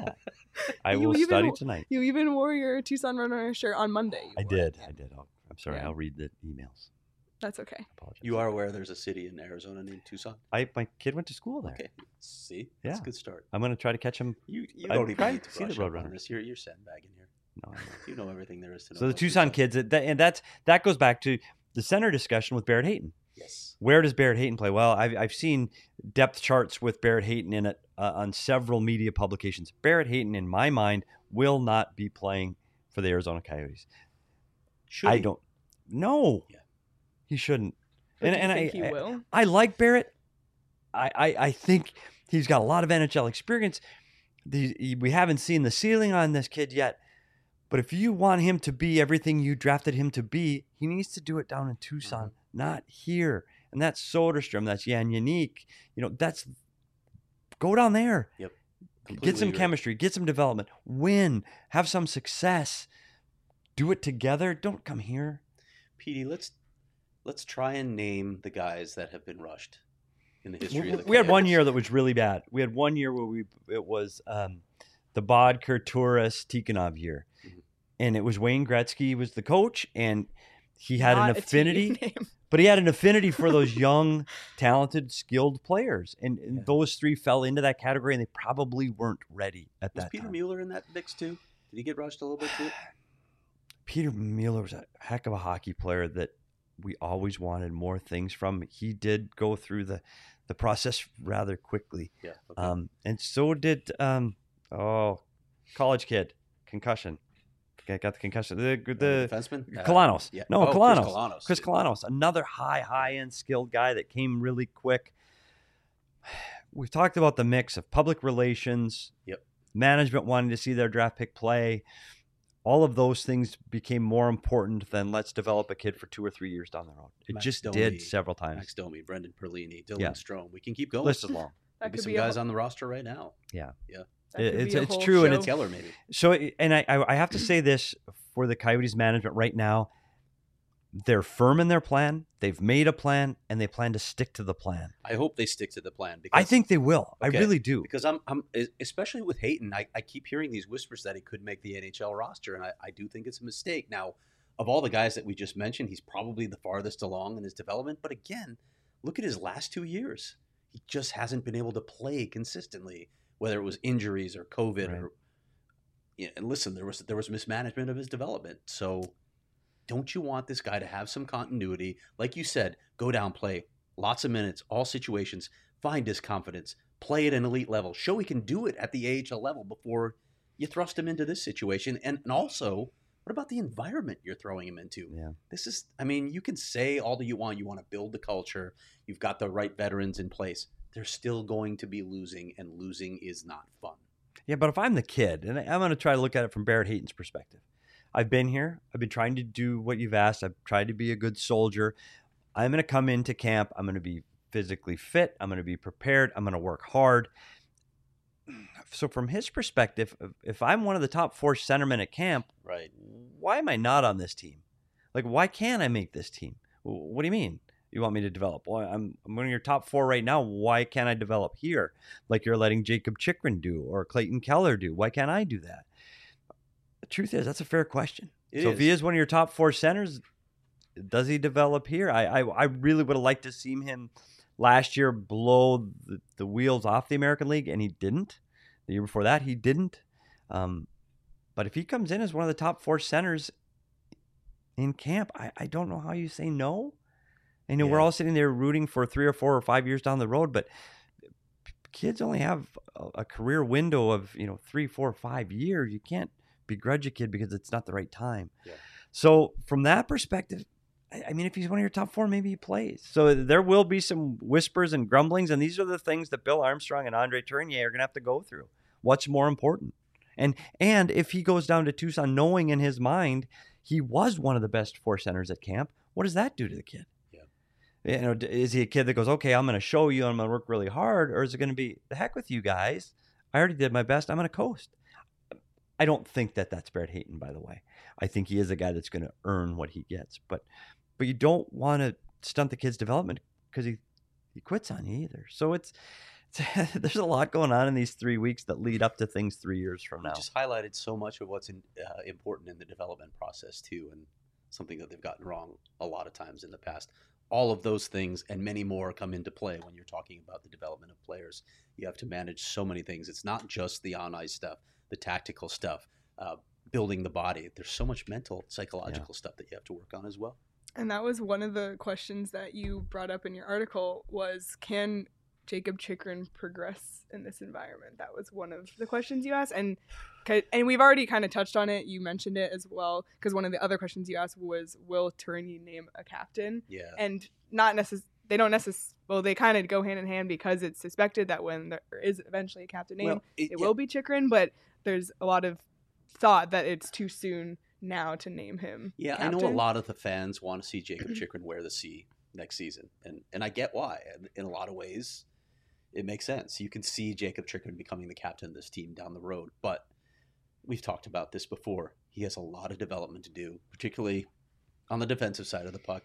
I
You
will
even
study
w-
tonight.
You even wore your Tucson Runner shirt on Monday. You
I
wore it.
did. I did. I'll, I'm sorry.
Yeah.
I'll read the emails.
That's okay.
Apologize.
You are aware there's a city in Arizona named Tucson?
I my kid went to school there.
Okay. See? That's
Yeah.
a good start.
I'm going to try to catch him.
You, you
I
don't even
tried
need to
to see the
brush up on
Roadrunners.
this. You're, you're sandbagging here.
No, I know.
You know everything there is to know.
So the
about
Tucson kids, that, and that's that goes back to the center discussion with Barrett Hayton.
Yes.
Where does Barrett Hayton play? Well, I've, I've seen depth charts with Barrett Hayton in it uh, on several media publications. Barrett Hayton, in my mind, will not be playing for the Arizona Coyotes.
Should
I
he?
don't. No,
Yeah.
he shouldn't.
But
and
do you
and
think
I,
he
I,
will?
I like Barrett. I, I, I think he's got a lot of N H L experience. The, he- we haven't seen the ceiling on this kid yet. But if you want him to be everything you drafted him to be, he needs to do it down in Tucson,
Mhm.
not here. And that's Soderstrom. That's Jan Yannick. You know, that's go down there.
Yep.
Get
Completely
some
agree.
chemistry. Get some development. Win. Have some success. Do it together. Don't come here.
Petey, let's let's try and name the guys that have been rushed in the history
We,
of the
we had one
Coyotes.
year that was really bad. We had one year where we it was um, the Bodker, Turris, Tikhonov year,
Mhm.
and it was Wayne Gretzky was the coach, and he had
Not
an
a team
affinity,
name.
but he had an affinity for those young, talented, skilled players, and, and
Yeah.
those three fell into that category, and they probably weren't ready at
Was
that
Peter
time.
Mueller in that mix too? Did he get rushed a little bit too?
Peter Mueller was a heck of a hockey player that we always wanted more things from. He did go through the, the process rather quickly.
Yeah. Okay.
Um, and so did um, oh, college kid concussion. Okay, got the concussion. The
Uh,
the
defenseman? Uh,
Kalanos.
yeah.
No,
oh,
Kalanos.
Chris Kalanos.
Chris Kalanos, another high high end skilled guy that came really quick. We've talked about the mix of public relations,
Yep.
management wanting to see their draft pick play. All of those things became more important than let's develop a kid for two or three years down the road. It
Max
just
Domi,
did several times.
Max Domi, Brendan Perlini, Dylan
Yeah.
Strome. We can keep going.
List is long.
That
Maybe
could
some
be a
guys
whole-
on the roster right now.
that
It-
could
it's-
be a
it's
whole
true, and
show.
it's-
Keller, maybe.
So, and I, I I have to say this for the Coyotes management right now. They're firm in their plan. They've made a plan, and they plan to stick to the plan.
I hope they stick to the plan. Because
I think they will.
Okay.
I really do.
because I'm, I'm especially with Hayton, I, I keep hearing these whispers that he could make the N H L roster, and I, I do think it's a mistake. Now, of all the guys that we just mentioned, he's probably the farthest along in his development. But again, look at his last two years. He just hasn't been able to play consistently, whether it was injuries or COVID
Right.
or. Yeah, and listen, there was there was mismanagement of his development. So, don't you want this guy to have some continuity? Like you said, go down, play lots of minutes, all situations, find his confidence, play at an elite level, show he can do it at the A H L level before you thrust him into this situation. And, and also, what about the environment you're throwing him into?
Yeah.
This is, I mean, you can say all that you want. You want to build the culture. You've got the right veterans in place. They're still going to be losing, and losing is not fun.
Yeah, but if I'm the kid, and I'm going to try to look at it from Barrett Hayton's perspective, I've been here. I've been trying to do what you've asked. I've tried to be a good soldier. I'm going to come into camp. I'm going to be physically fit. I'm going to be prepared. I'm going to work hard. So from his perspective, if- if I'm one of the top four centermen at camp,
Right.
why am I not on this team? Like, why can't I make this team? W- What do you mean? You want me to develop? Well, I'm, I'm one of your top four right now. Why can't I develop here? Like you're letting Jacob Chikrin do or Clayton Keller do. Why can't I do that? The truth is, that's a fair question.
It
so if he
is.
is one of your top four centers, does he develop here? I I, I really would have liked to see him last year blow the, the wheels off the American League, and he didn't. The year before that, he didn't. Um, but if he comes in as one of the top four centers in camp, I, I don't know how you say no. I know we're
Yeah.
all sitting there rooting for three or four or five years down the road, but kids only have a, a career window of, you know, three, four, five years. You can't begrudge a kid because it's not the right time.
Yeah.
So from that perspective, I, I mean, if he's one of your top four, maybe he plays. So there will be some whispers and grumblings, and these are the things that Bill Armstrong and Andre Tournier are going to have to go through. What's more important? And and if he goes down to Tucson knowing in his mind he was one of the best four centers at camp, what does that do to the kid? You know, d- is he a kid that goes, okay, I'm going to show you, I'm going to work really hard, or is it going to be the heck with you guys? I already did my best. I'm going to coast. I don't think that that's Barrett Hayton, by the way. I think he is a guy that's going to earn what he gets, but but you don't want to stunt the kid's development because he he quits on you either. So it's there's a lot going on in these three weeks that lead up to things three years from
You
now.
just highlighted so much of what's in, uh, important in the development process too, and something that they've gotten wrong a lot of times in the past. All of those things and many more come into play when you're talking about the development of players. You have to manage so many things. It's not just the on-ice stuff, the tactical stuff, uh, building the body. There's so much mental, psychological yeah. stuff that you have to work on as well.
And that was one of the questions that you brought up in your article was, can Jakob Chychrun progress in this environment? That was one of the questions you asked. And and we've already kind of touched on it. You mentioned it as well, because one of the other questions you asked was, will Tourigny name a captain?
Yeah.
And not necessarily, they don't necessarily, well, they kind of go hand in hand because it's suspected that when there is eventually a captain name,
well, it,
it
yeah.
will be Chychrun, but there's a lot of thought that it's too soon now to name him
Yeah,
captain.
I know a lot of the fans want to see Jakob Chychrun wear the C next season, and and I get why. In a lot of ways, it makes sense. You can see Jakob Chychrun becoming the captain of this team down the road, but we've talked about this before. He has a lot of development to do, particularly on the defensive side of the puck.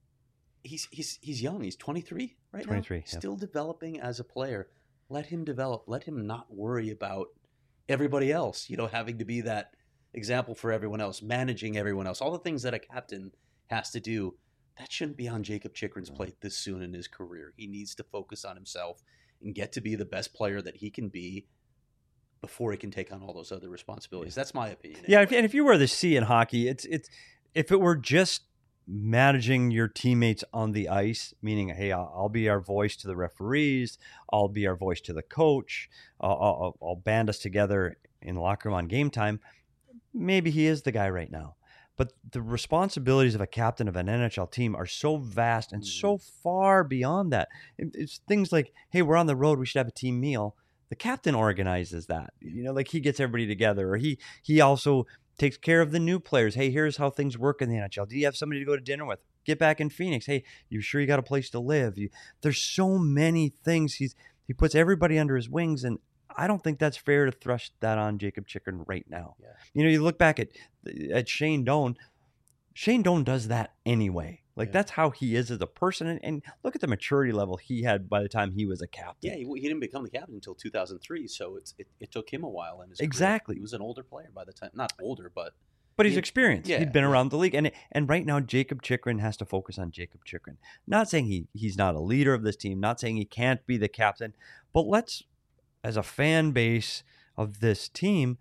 He's he's he's young. He's twenty-three right
twenty-three,
now.
yeah.
Still developing as a player. Let him develop. Let him not worry about everybody else, you know, having to be that example for everyone else, managing everyone else, all the things that a captain has to do. That shouldn't be on Jakob Chychrun's plate this soon in his career. He needs to focus on himself and get to be the best player that he can be before he can take on all those other responsibilities. That's my opinion.
Yeah,
anyway.
and if you wear the C in hockey, it's it's if it were just managing your teammates on the ice, meaning, hey, I'll, I'll be our voice to the referees, I'll be our voice to the coach, I'll, I'll, I'll band us together in the locker room on game time, maybe he is the guy right now. But the responsibilities of a captain of an N H L team are so vast and so far beyond that. It's things like, hey, we're on the road, we should have a team meal. The captain organizes that. You know, like he gets everybody together, or he he also takes care of the new players. Hey, here's how things work in the N H L. Do you have somebody to go to dinner with? Get back in Phoenix. Hey, you sure you got a place to live? You, there's so many things. He's he puts everybody under his wings, and I don't think that's fair to thrust that on Jakob Chychrun right now.
Yeah.
You know, you look back at at Shane Doan. Shane Doan does that anyway. Like
Yeah.
that's how he is as a person, and, and look at the maturity level he had by the time he was a captain.
Yeah, he, he didn't become the captain until two thousand three, so it's it, it took him a while in his
Exactly.
career. He was an older player by the time. Not older, but
But he's
He-
experienced.
yeah,
He'd been
yeah.
around the league. And and right now, Jakob Chychrun has to focus on Jakob Chychrun. Not saying he, he's not a leader of this team, not saying he can't be the captain, but let's, as a fan base of this team,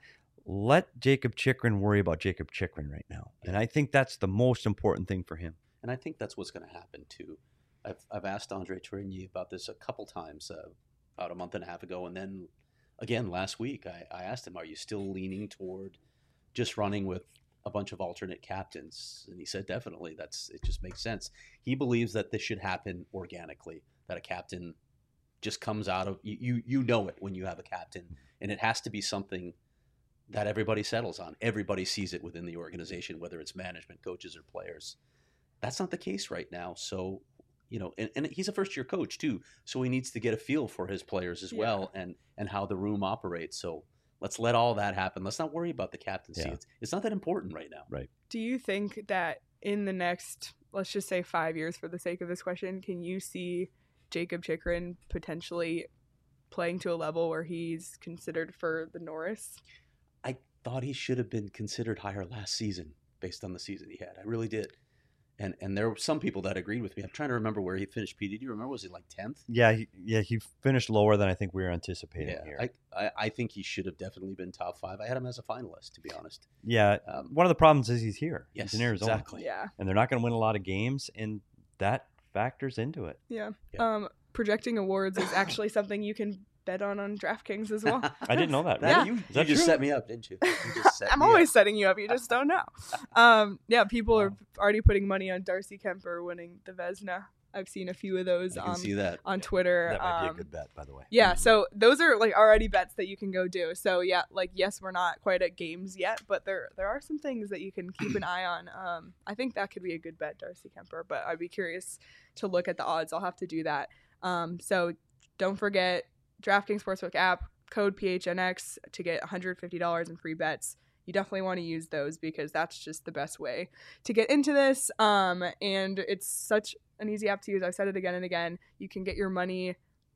let Jakob Chychrun worry about Jakob Chychrun right now. And I think that's the most important thing for him.
and I think that's what's going to happen too. I've I've asked Andre Tourigny about this a couple times, uh, about a month and a half ago, and then again last week. I, I asked him, "Are you still leaning toward just running with a bunch of alternate captains?" And he said, "Definitely. That's it. Just makes sense." He believes that this should happen organically. That a captain just comes out of you. You, you know it when you have a captain, and it has to be something that everybody settles on. Everybody sees it within the organization, whether it's management, coaches, or players. That's not the case right now. So, you know, and, and he's a first-year coach too, so he needs to get a feel for his players as
Yeah.
well, and and how the room operates. So let's let all that happen. Let's not worry about the captaincy.
Yeah.
It's, it's not that important right now.
Right.
Do you think that in the next, let's just say five years for the sake of this question, can you see Jakob Chychrun potentially playing to a level where he's considered for the Norris?
I thought he should have been considered higher last season based on the season he had. I really did. And and there were some people that agreed with me. I'm trying to remember where he finished. P D, do you remember? Was he like tenth?
Yeah, he, yeah, he finished lower than I think we were anticipating
Yeah,
here.
I, I I think he should have definitely been top five. I had him as a finalist, to be honest.
yeah,
Um,
one of the problems is he's here.
yes,
he's in Arizona.
exactly.
Yeah.
And they're not going to win a lot of games, and that factors into it.
Yeah.
Yeah.
Um, projecting awards is actually something you can bet on on DraftKings as well.
I didn't know that.
That-
Yeah.
You,
Is that
you just
true?
set me up, didn't you? You just set
I'm
me
always
up.
setting you up. You just don't know. Um, yeah, people are
Wow.
already putting money on Darcy Kemper winning the Vezina. I've seen a few of those
I can
on
see that.
on Twitter.
That might be
Um,
a good bet, by the way.
Yeah, so those are like already bets that you can go do. So yeah, like yes, we're not quite at games yet, but there there are some things that you can keep an eye on. Um, I think that could be a good bet, Darcy Kemper. But I'd be curious to look at the odds. I'll have to do that. Um, so don't forget DraftKings Sportsbook app code P H N X to get one hundred fifty dollars in free bets. You definitely want to use those because that's just the best way to get into this. Um, and it's such an easy app to use. I've said it again and again. You can get your money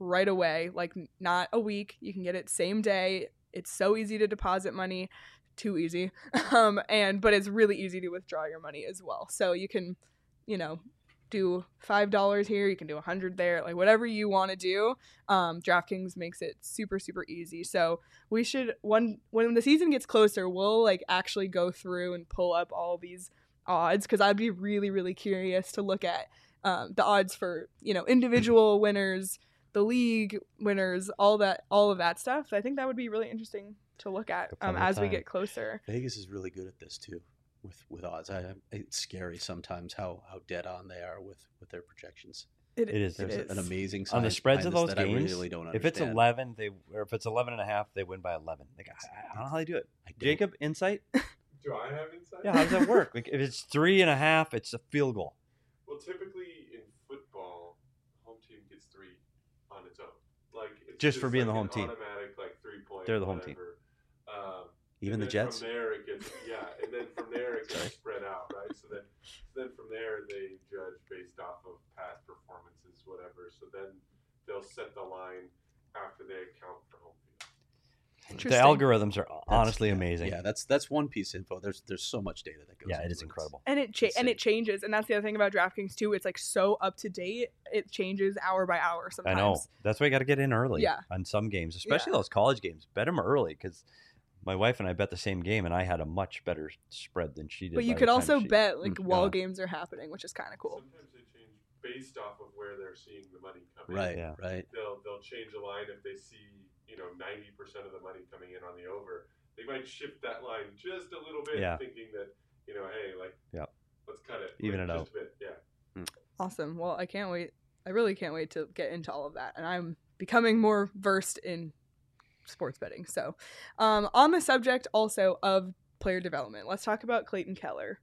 right away, like n- not a week. You can get it same day. It's so easy to deposit money, too easy. Um, and but it's really easy to withdraw your money as well. So you can, you know, do five dollars here, you can do a hundred there, like whatever you want to do. Um, DraftKings makes it super super easy. So we should when when the season gets closer, we'll like actually go through and pull up all these odds because I'd be really really curious to look at um, the odds for you know individual winners, the league winners, all that all of that stuff. So I think that would be really interesting to look at um, as we get closer.
Vegas is really good at this too. With, with odds, I, it's scary sometimes how, how dead on they are with, with their projections.
It,
It is.
There's
it is.
an amazing
On the
science
spreads of
behind
those
this that
games,
I really don't
if it's
understand.
eleven, they or if it's eleven and a half, they win by eleven. Like, I, I don't know how they do it.
I don't.
Jacob, insight?
Do I have insight?
Yeah, how does that work? Like, if it's three and a half, it's a field goal.
Well, typically in football, home team gets three on its own. Like it's
Just for being
like
the home
an
team.
Automatic like three point.
They're the home team.
whatever. Um,
Even
and
the
then
Jets?
From there it gets yeah, and then from there it
Sorry.
gets spread out, right? So then, then from there they judge based off of past performances, whatever. So then they'll set the line after they account for home field.
The
Interesting.
algorithms are
That's-
honestly
yeah,
amazing.
Yeah, that's that's one piece of info. There's there's so much data that goes.
Yeah, it
into
is incredible.
And it cha- and
Insane.
it changes, and that's the other thing about DraftKings too. It's like so up to date. It changes hour by hour
I
sometimes.
know. That's why you got to get in early
Yeah.
on some games, especially
Yeah.
those college games. Bet them early because my wife and I bet the same game, and I had a much better spread than she did.
But you
by
could
the time
also
she-
bet like
Mm,
while
yeah.
games are happening, which is kind of cool.
Sometimes they change based off of where they're seeing the money come in.
Right,
Yeah.
right.
They'll they'll change a line if they see you know ninety percent of the money coming in on the over. They might shift that line just a little bit,
Yeah.
thinking that you know, hey, like,
Yep.
let's cut it,
Even
like,
it
just a bit, yeah.
Awesome. Well, I can't wait. I really can't wait to get into all of that, and I'm becoming more versed in sports betting. So, um, on the subject also of player development, let's talk about Clayton Keller.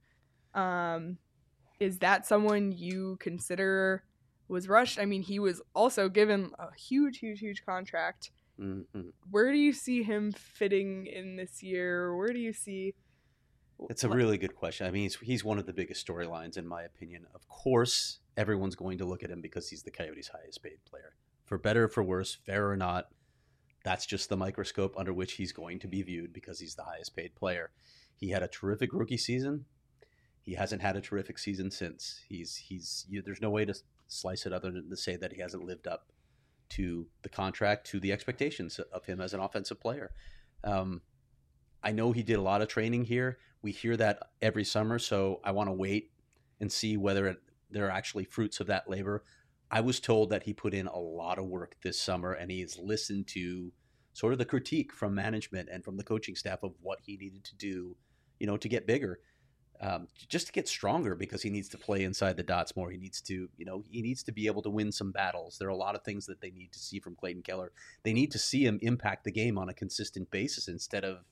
Um, is that someone you consider was rushed? I mean, he was also given a huge, huge, huge contract.
Mm-hmm.
Where do you see him fitting in this year? Where do you see?
It's a really good question. I mean, he's, he's one of the biggest storylines, in my opinion. Of course, everyone's going to look at him because he's the Coyotes' highest paid player. For better or for worse, fair or not, that's just the microscope under which he's going to be viewed because he's the highest paid player. He had a terrific rookie season. He hasn't had a terrific season since. He's he's you, there's no way to slice it other than to say that he hasn't lived up to the contract, to the expectations of him as an offensive player. Um, I know he did a lot of training here. We hear that every summer, so I want to wait and see whether it, there are actually fruits of that labor. I was told that he put in a lot of work this summer, and he has listened to sort of the critique from management and from the coaching staff of what he needed to do, you know, to get bigger, um, just to get stronger, because he needs to play inside the dots more. He needs to, you know, he needs to be able to win some battles. There are a lot of things that they need to see from Clayton Keller. They need to see him impact the game on a consistent basis instead of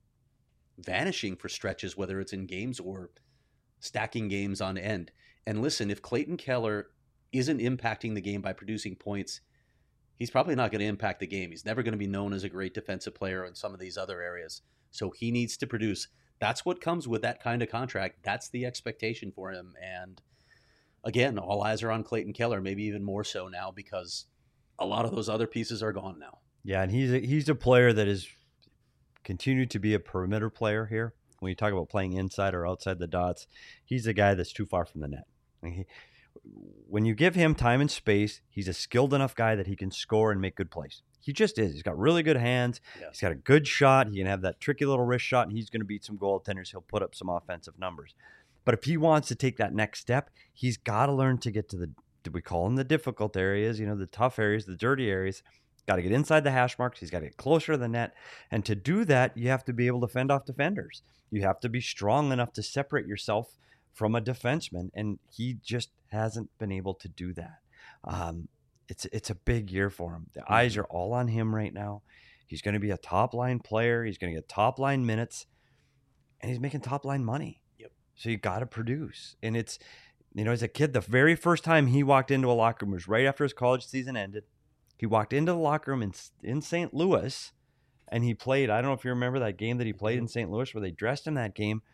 vanishing for stretches, whether it's in games or stacking games on end. And listen, if Clayton Keller isn't impacting the game by producing points, he's probably not going to impact the game. He's never going to be known as a great defensive player in some of these other areas. So he needs to produce. That's what comes with that kind of contract. That's the expectation for him. And again, all eyes are on Clayton Keller, maybe even more so now because a lot of those other pieces are gone now.
Yeah, and he's a, he's a player that is continued to be a perimeter player here. When you talk about playing inside or outside the dots, he's a guy that's too far from the net. I mean, he, when you give him time and space, he's a skilled enough guy that he can score and make good plays. He just is. He's got really good hands.
Yeah.
He's got a good shot. He can have that tricky little wrist shot, and he's going to beat some goaltenders. He'll put up some offensive numbers. But if he wants to take that next step, he's got to learn to get to the, we call them the difficult areas, you know, the tough areas, the dirty areas. Got to get inside the hash marks. He's got to get closer to the net. And to do that, you have to be able to fend off defenders. You have to be strong enough to separate yourself from a defenseman. And he just hasn't been able to do that. Um, it's, it's a big year for him. The eyes are all on him right now. He's going to be a top line player. He's going to get top line minutes. And he's making top line money.
Yep.
So you got to produce. And it's, you know, as a kid, the very first time he walked into a locker room was right after his college season ended. He walked into the locker room in, in Saint Louis, and he played. I don't know if you remember that game that he played in Saint Louis where they dressed him that game.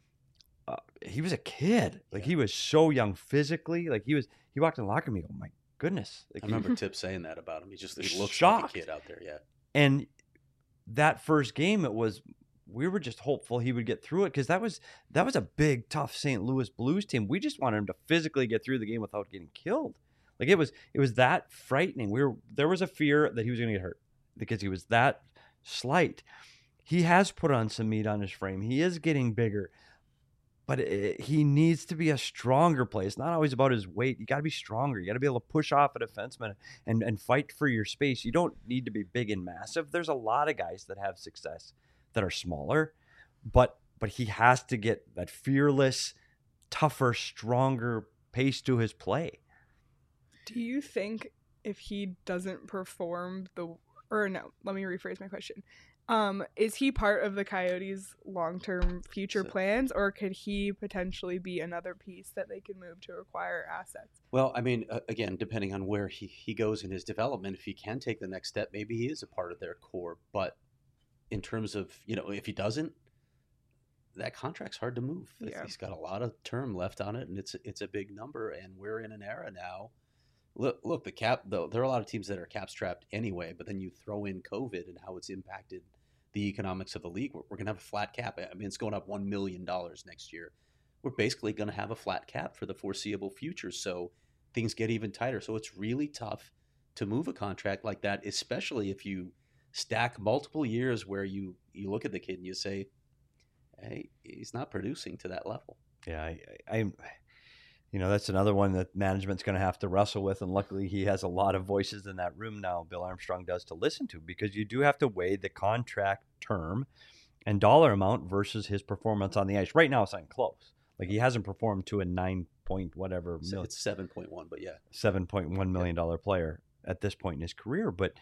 Uh, he was a kid. Like,
Yeah.
he was so young physically. Like, he was, he walked in the locker room and he go, my goodness. Like,
I remember Tip saying that about him. He just he looks
Shocked.
like a kid out there. Yeah.
And that first game, it was we were just hopeful he would get through it because that was that was a big, tough Saint Louis Blues team. We just wanted him to physically get through the game without getting killed. Like it was it was that frightening. We were there was a fear that he was going to get hurt because he was that slight. He has put on some meat on his frame. He is getting bigger. But it, he needs to be a stronger player. It's not always about his weight. You got to be stronger. You got to be able to push off a defenseman and, and fight for your space. You don't need to be big and massive. There's a lot of guys that have success that are smaller, but but he has to get that fearless, tougher, stronger pace to his play.
Do you think if he doesn't perform the or no, let me rephrase my question. Um, is he part of the Coyotes' long-term future
So-
plans, or could he potentially be another piece that they can move to acquire assets?
Well, I mean, uh, again, depending on where he, he goes in his development, if he can take the next step, maybe he is a part of their core. But in terms of, you know, if he doesn't, that contract's hard to move. It's-
Yeah.
He's got a lot of term left on it, and it's it's a big number. And we're in an era now. Look, look, the cap. Though there are a lot of teams that are cap strapped anyway. But then you throw in COVID and how it's impacted the economics of the league. We're, we're going to have a flat cap. I mean, it's going up one million dollars next year. We're basically going to have a flat cap for the foreseeable future. So things get even tighter. So it's really tough to move a contract like that, especially if you stack multiple years where you, you look at the kid and you say, hey, he's not producing to that level.
Yeah, I, I, I you know, that's another one that management's going to have to wrestle with. And luckily, he has a lot of voices in that room now, Bill Armstrong does, to listen to, because you do have to weigh the contract term and dollar amount versus his performance on the ice. Right now, it's not close. Like, he hasn't performed to a nine point whatever,
So
mil-
it's seven point one, but yeah.
seven point one million dollars player at this point in his career. But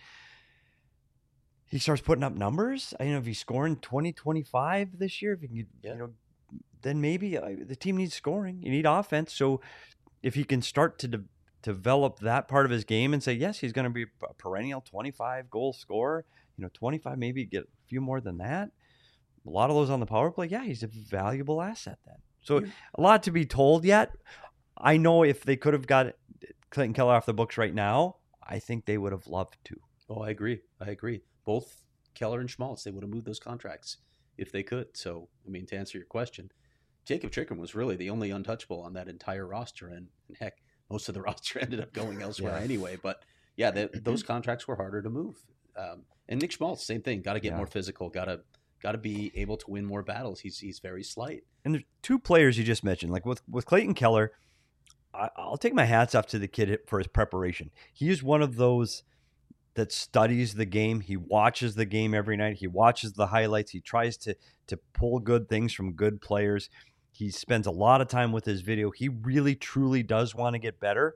he starts putting up numbers. I know if he's scoring twenty, twenty-five this year, if he can,
Yeah.
you know, then maybe uh, the team needs scoring. You need offense. So if he can start to de- develop that part of his game and say, yes, he's going to be a perennial twenty-five goal scorer, you know, twenty-five, maybe get a few more than that. A lot of those on the power play. Yeah, he's a valuable asset then. So
Yeah.
a lot to be told yet. I know if they could have got Clayton Keller off the books right now, I think they would have loved to.
Oh, I agree. I agree. Both Keller and Schmaltz, they would have moved those contracts if they could. So, I mean, to answer your question, Jacob Chikrin was really the only untouchable on that entire roster. And, and heck, most of the roster ended up going elsewhere
Yeah.
anyway. But yeah, the, those contracts were harder to move. Um, and Nick Schmaltz, same thing. Got to get
Yeah.
more physical. Got to got to be able to win more battles. He's he's very slight.
And there's two players you just mentioned. Like with, with Clayton Keller, I, I'll take my hats off to the kid for his preparation. He is one of those that studies the game. He watches the game every night. He watches the highlights. He tries to to pull good things from good players. He spends a lot of time with his video. He really, truly does want to get better.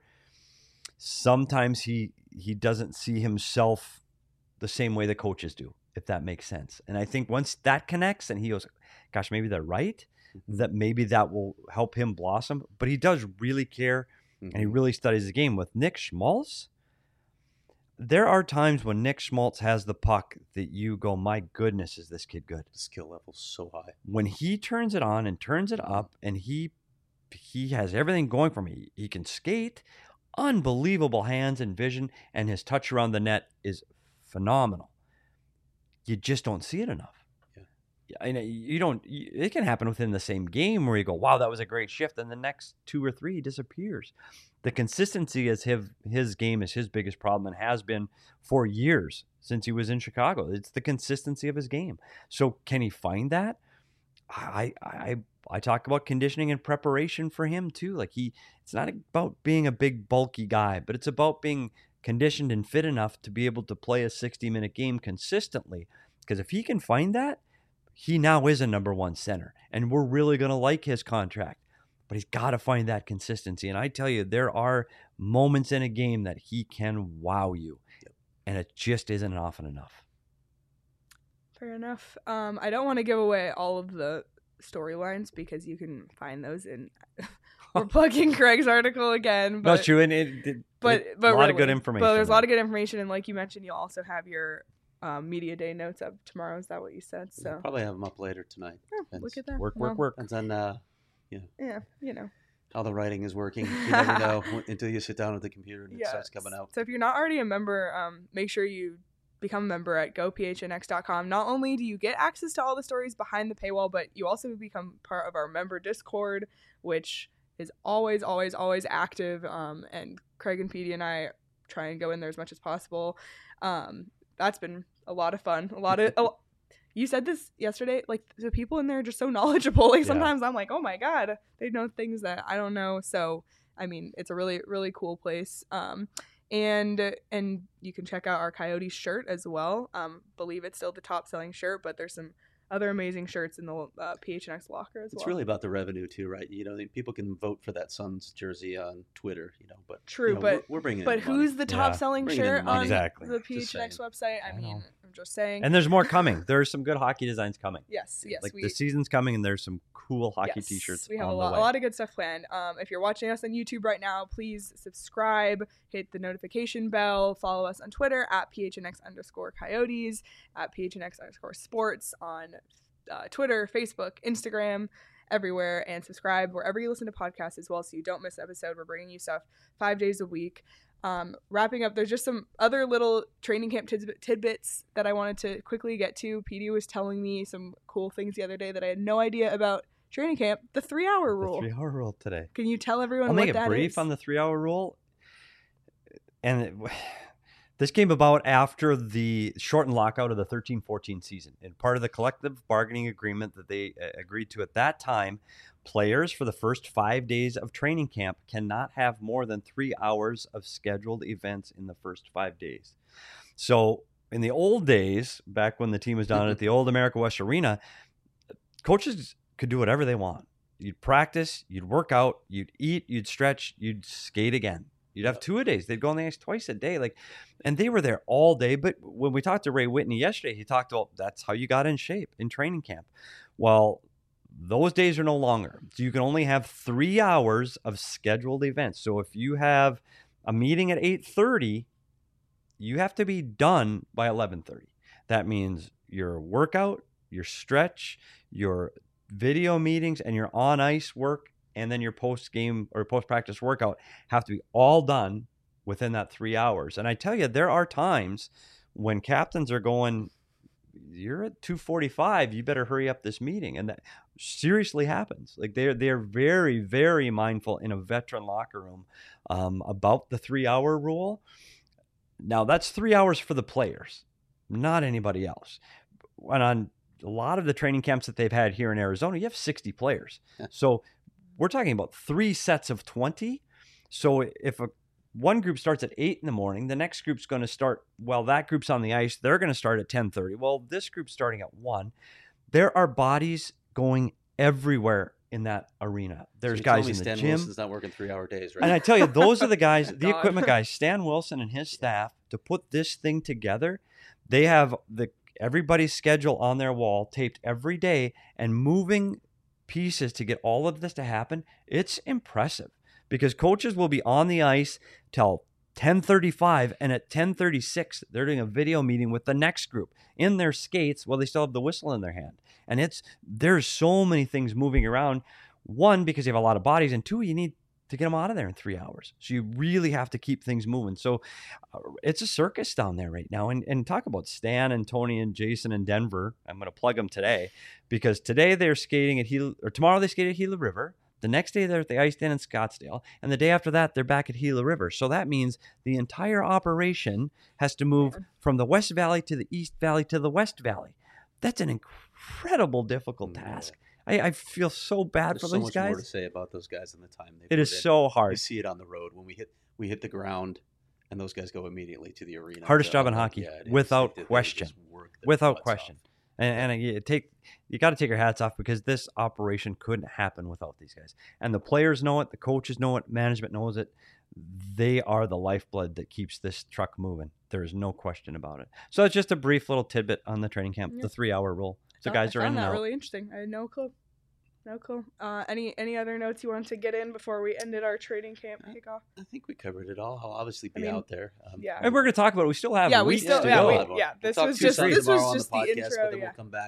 Sometimes he he doesn't see himself the same way the coaches do, if that makes sense. And I think once that connects and he goes, gosh, maybe they're right, that maybe that will help him blossom. But he does really care, and he really studies the game. With Nick Schmaltz, there are times when Nick Schmaltz has the puck that you go, my goodness, is this kid good?
The skill level's so high.
When he turns it on and turns it up, and he he has everything going for me. He can skate, unbelievable hands and vision, and his touch around the net is phenomenal. You just don't see it enough.
Yeah.
Yeah, I know you don't. You, it can happen within the same game where you go, "Wow, that was a great shift," and the next two or three he disappears. The consistency is his his game is his biggest problem and has been for years since he was in Chicago. It's the consistency of his game. So can he find that? I I I talk about conditioning and preparation for him too. Like he, it's not about being a big bulky guy, but it's about being conditioned and fit enough to be able to play a sixty minute game consistently. Because if he can find that, he now is a number one center, and we're really going to like his contract. But he's got to find that consistency. And I tell you, there are moments in a game that he can wow you, and it just isn't often enough.
Fair enough. Um, I don't want to give away all of the storylines because you can find those in. We're plugging Craig's article again, but
No, it's true, and it, it,
but
it-
but
a lot of
really,
good information.
But there's a
there.
lot of good information, and like you mentioned, you'll also have your um, media day notes up tomorrow. Is that what you said?
We'll
So
probably have them up later tonight.
yeah,
Depends.
look at that.
Work,
Well,
work, work.
Depends on uh,
Yeah, you know.
how the writing is working. You never know until you sit down at the computer and it
Yeah.
starts coming out.
So if you're not already a member, um, make sure you become a member at go p h n x dot com. Not only do you get access to all the stories behind the paywall, but you also become part of our member Discord, which is always, always, always active. Um, and Craig and Petey and I try and go in there as much as possible. Um, that's been a lot of fun. A lot of, a, you said this yesterday, like the people in there are just so knowledgeable. Like
Yeah.
sometimes I'm like, oh my God, they know things that I don't know. So, I mean, it's a really, really cool place. Um, and, and you can check out our Coyotes shirt as well. Um, believe it's still the top selling shirt, but there's some other amazing shirts in the uh, P H N X locker as well.
It's really about the revenue too, right? You know, people can vote for that Suns jersey on Twitter, you know, but
True,
you know,
but
we're, we're bringing.
But
in the money.
who's the top
Yeah.
selling
Bringing in
shirt
the money.
on
Exactly.
the P H N X
Just
website? I,
I
mean,
know.
I'm just saying.
And there's more coming. There's some good hockey designs coming.
yes, yes,
like
we
the season's coming, and there's some cool hockey
yes,
T-shirts
We have
on
a
the
lot,
way.
a lot of good stuff planned. Um, if you're watching us on YouTube right now, please subscribe, hit the notification bell, follow us on Twitter at P H N X underscore Coyotes, at P H N X underscore Sports on uh, Twitter, Facebook, Instagram, everywhere, and subscribe wherever you listen to podcasts as well, so you don't miss an episode. We're bringing you stuff five days a week. Um, wrapping up, there's just some other little training camp tidbit, tidbits that I wanted to quickly get to. Petey was telling me some cool things the other day that I had no idea about training camp. The three-hour rule.
The three-hour rule today.
Can you tell everyone
I'll
what
make it
that
brief
is?
on the three-hour rule. And it, this came about after the shortened lockout of the thirteen fourteen season. And part of the collective bargaining agreement that they uh, agreed to at that time, players for the first five days of training camp cannot have more than three hours of scheduled events in the first five days. So in the old days, back when the team was down at the old America West Arena, coaches could do whatever they want. You'd practice, you'd work out, you'd eat, you'd stretch, you'd skate again. You'd have two a days. They'd go on the ice twice a day. Like, and they were there all day. But when we talked to Ray Whitney yesterday, he talked about that's how you got in shape in training camp. Well, those days are no longer. So you can only have three hours of scheduled events. So if you have a meeting at eight thirty, you have to be done by eleven thirty. That means your workout, your stretch, your video meetings, and your on ice work, and then your post-game or post-practice workout have to be all done within that three hours. And I tell you, there are times when captains are going, you're at two forty-five, you better hurry up this meeting. And that seriously happens. Like they're, they're very, very mindful in a veteran locker room um, about the three-hour rule. Now, that's three hours for the players, not anybody else. And on a lot of the training camps that they've had here in Arizona, you have sixty players. So we're talking about three sets of twenty. So if a one group starts at eight in the morning, the next group's going to start, well, that group's on the ice, they're going to start at ten thirty. Well, this group's starting at one. There are bodies going everywhere in that arena. There's
So
guys
me
in the
Stan
gym.
Wilson's not working three-hour days, right?
And I tell you, those are the guys, the
God.
equipment guys, Stan Wilson and his staff, to put this thing together. They have the everybody's schedule on their wall, taped every day, and moving pieces to get all of this to happen. It's impressive because coaches will be on the ice till ten thirty-five, and at ten thirty-six, they're doing a video meeting with the next group in their skates while they still have the whistle in their hand. And it's there's so many things moving around. One, because you have a lot of bodies, and two, you need to get them out of there in three hours. So you really have to keep things moving. So uh, it's a circus down there right now. And and talk about Stan and Tony and Jason in Denver. I'm going to plug them today because today they're skating at Gila, or tomorrow they skate at Gila River. The next day they're at the ice stand in Scottsdale. And the day after that, they're back at Gila River. So that means the entire operation has to move from the West Valley to the East Valley to the West Valley. That's an incredible, difficult
Yeah.
task. I, I feel so bad
There's
for
so
those
much
guys.
more to say about those guys and the time they
It
put
is
in.
so
You
hard.
see it on the road when we hit we hit the ground, and those guys go immediately to the arena.
Hardest
to
job in
help.
hockey,
Yeah, it is.
without
They- they
question.
just work their
Without
butts
question.
off.
And, and you take you got to take your hats off because this operation couldn't happen without these guys. And the players know it, the coaches know it, management knows it. They are the lifeblood that keeps this truck moving. There is no question about it. So it's just a brief little tidbit on the training camp,
Yeah.
the three-hour rule. So
I
guys are in
found
and
that
out.
really interesting. I had no clue. No clue. Uh, any any other notes you wanted to get in before we ended our training camp kickoff?
I think we covered it all. I'll obviously be
I mean,
out there. Um,
yeah.
And we're going to talk about it. We still have
Yeah,
a
we
week
still-
to
yeah,
go.
we-
We'll
yeah, this
talk
was
two
just-
Suns
this was
tomorrow on
just the
podcast,
intro,
but then
yeah.
we'll come back.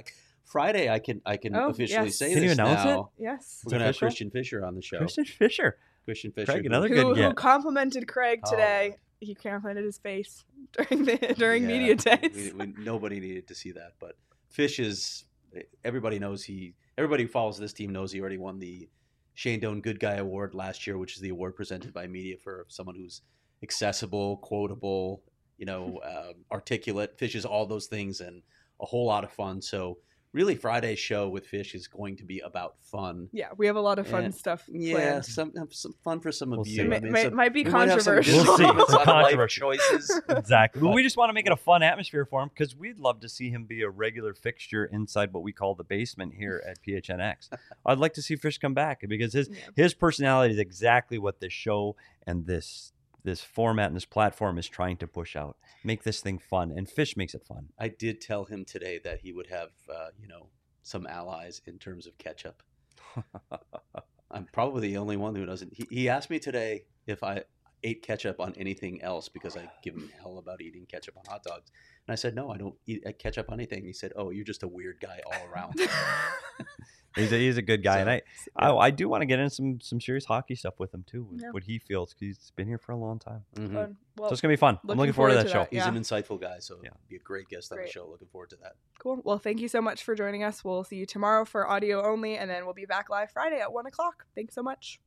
Friday, I can I can
Oh,
officially
yes.
say
Can you
this
announce it?
now.
Yes.
We're gonna have
official?
Christian Fisher on the show.
Christian Fisher.
Christian Fisher,
Craig,
who-
another
Who,
good
who
get.
complimented Craig
Oh,
today?
Lord.
He complimented his face during the during
Yeah,
media days.
we- we- nobody needed to see that, but Fish is. Everybody knows he. Everybody who follows this team knows he already won the Shane Doan Good Guy Award last year, which is the award presented by media for someone who's accessible, quotable, you know, um, articulate. Fish is all those things and a whole lot of fun. So really, Friday's show with Fish is going to be about fun.
Yeah, we have a lot of fun
And-
stuff
Yeah,
planned.
some some fun for some of
We'll
you.
see.
I
Might,
mean,
might,
some-
might be
we might have some
controversial.
We'll see.
disagreements
Some
on life
controversial.
choices.
Exactly. But
But-
we just want to make it a fun atmosphere for him because we'd love to see him be a regular fixture inside what we call the basement here at P H N X. I'd like to see Fish come back because his
Yeah.
his personality is exactly what this show and this this format and this platform is trying to push out. Make this thing fun, and Fish makes it fun.
I did tell him today that he would have, uh, you know, some allies in terms of ketchup. I'm probably the only one who doesn't. He, he asked me today if I ate ketchup on anything else because I give him hell about eating ketchup on hot dogs. And I said, no, I don't eat ketchup on anything. He said, oh, you're just a weird guy all around.
He's a, he's a good guy,
So,
and I, I I do want to get into some some serious hockey stuff with him too. With
Yeah.
what he feels 'cause he's been here for a long time.
Mhm.
Fun. Well,
So it's gonna be fun. I'm looking forward to that show.
He's
Yeah.
an insightful guy, so
Yeah.
be a great guest on
Great.
the show. Looking forward to that.
Cool. Well, thank you so much for joining us. We'll see you tomorrow for audio only, and then we'll be back live Friday at one o'clock. Thanks so much.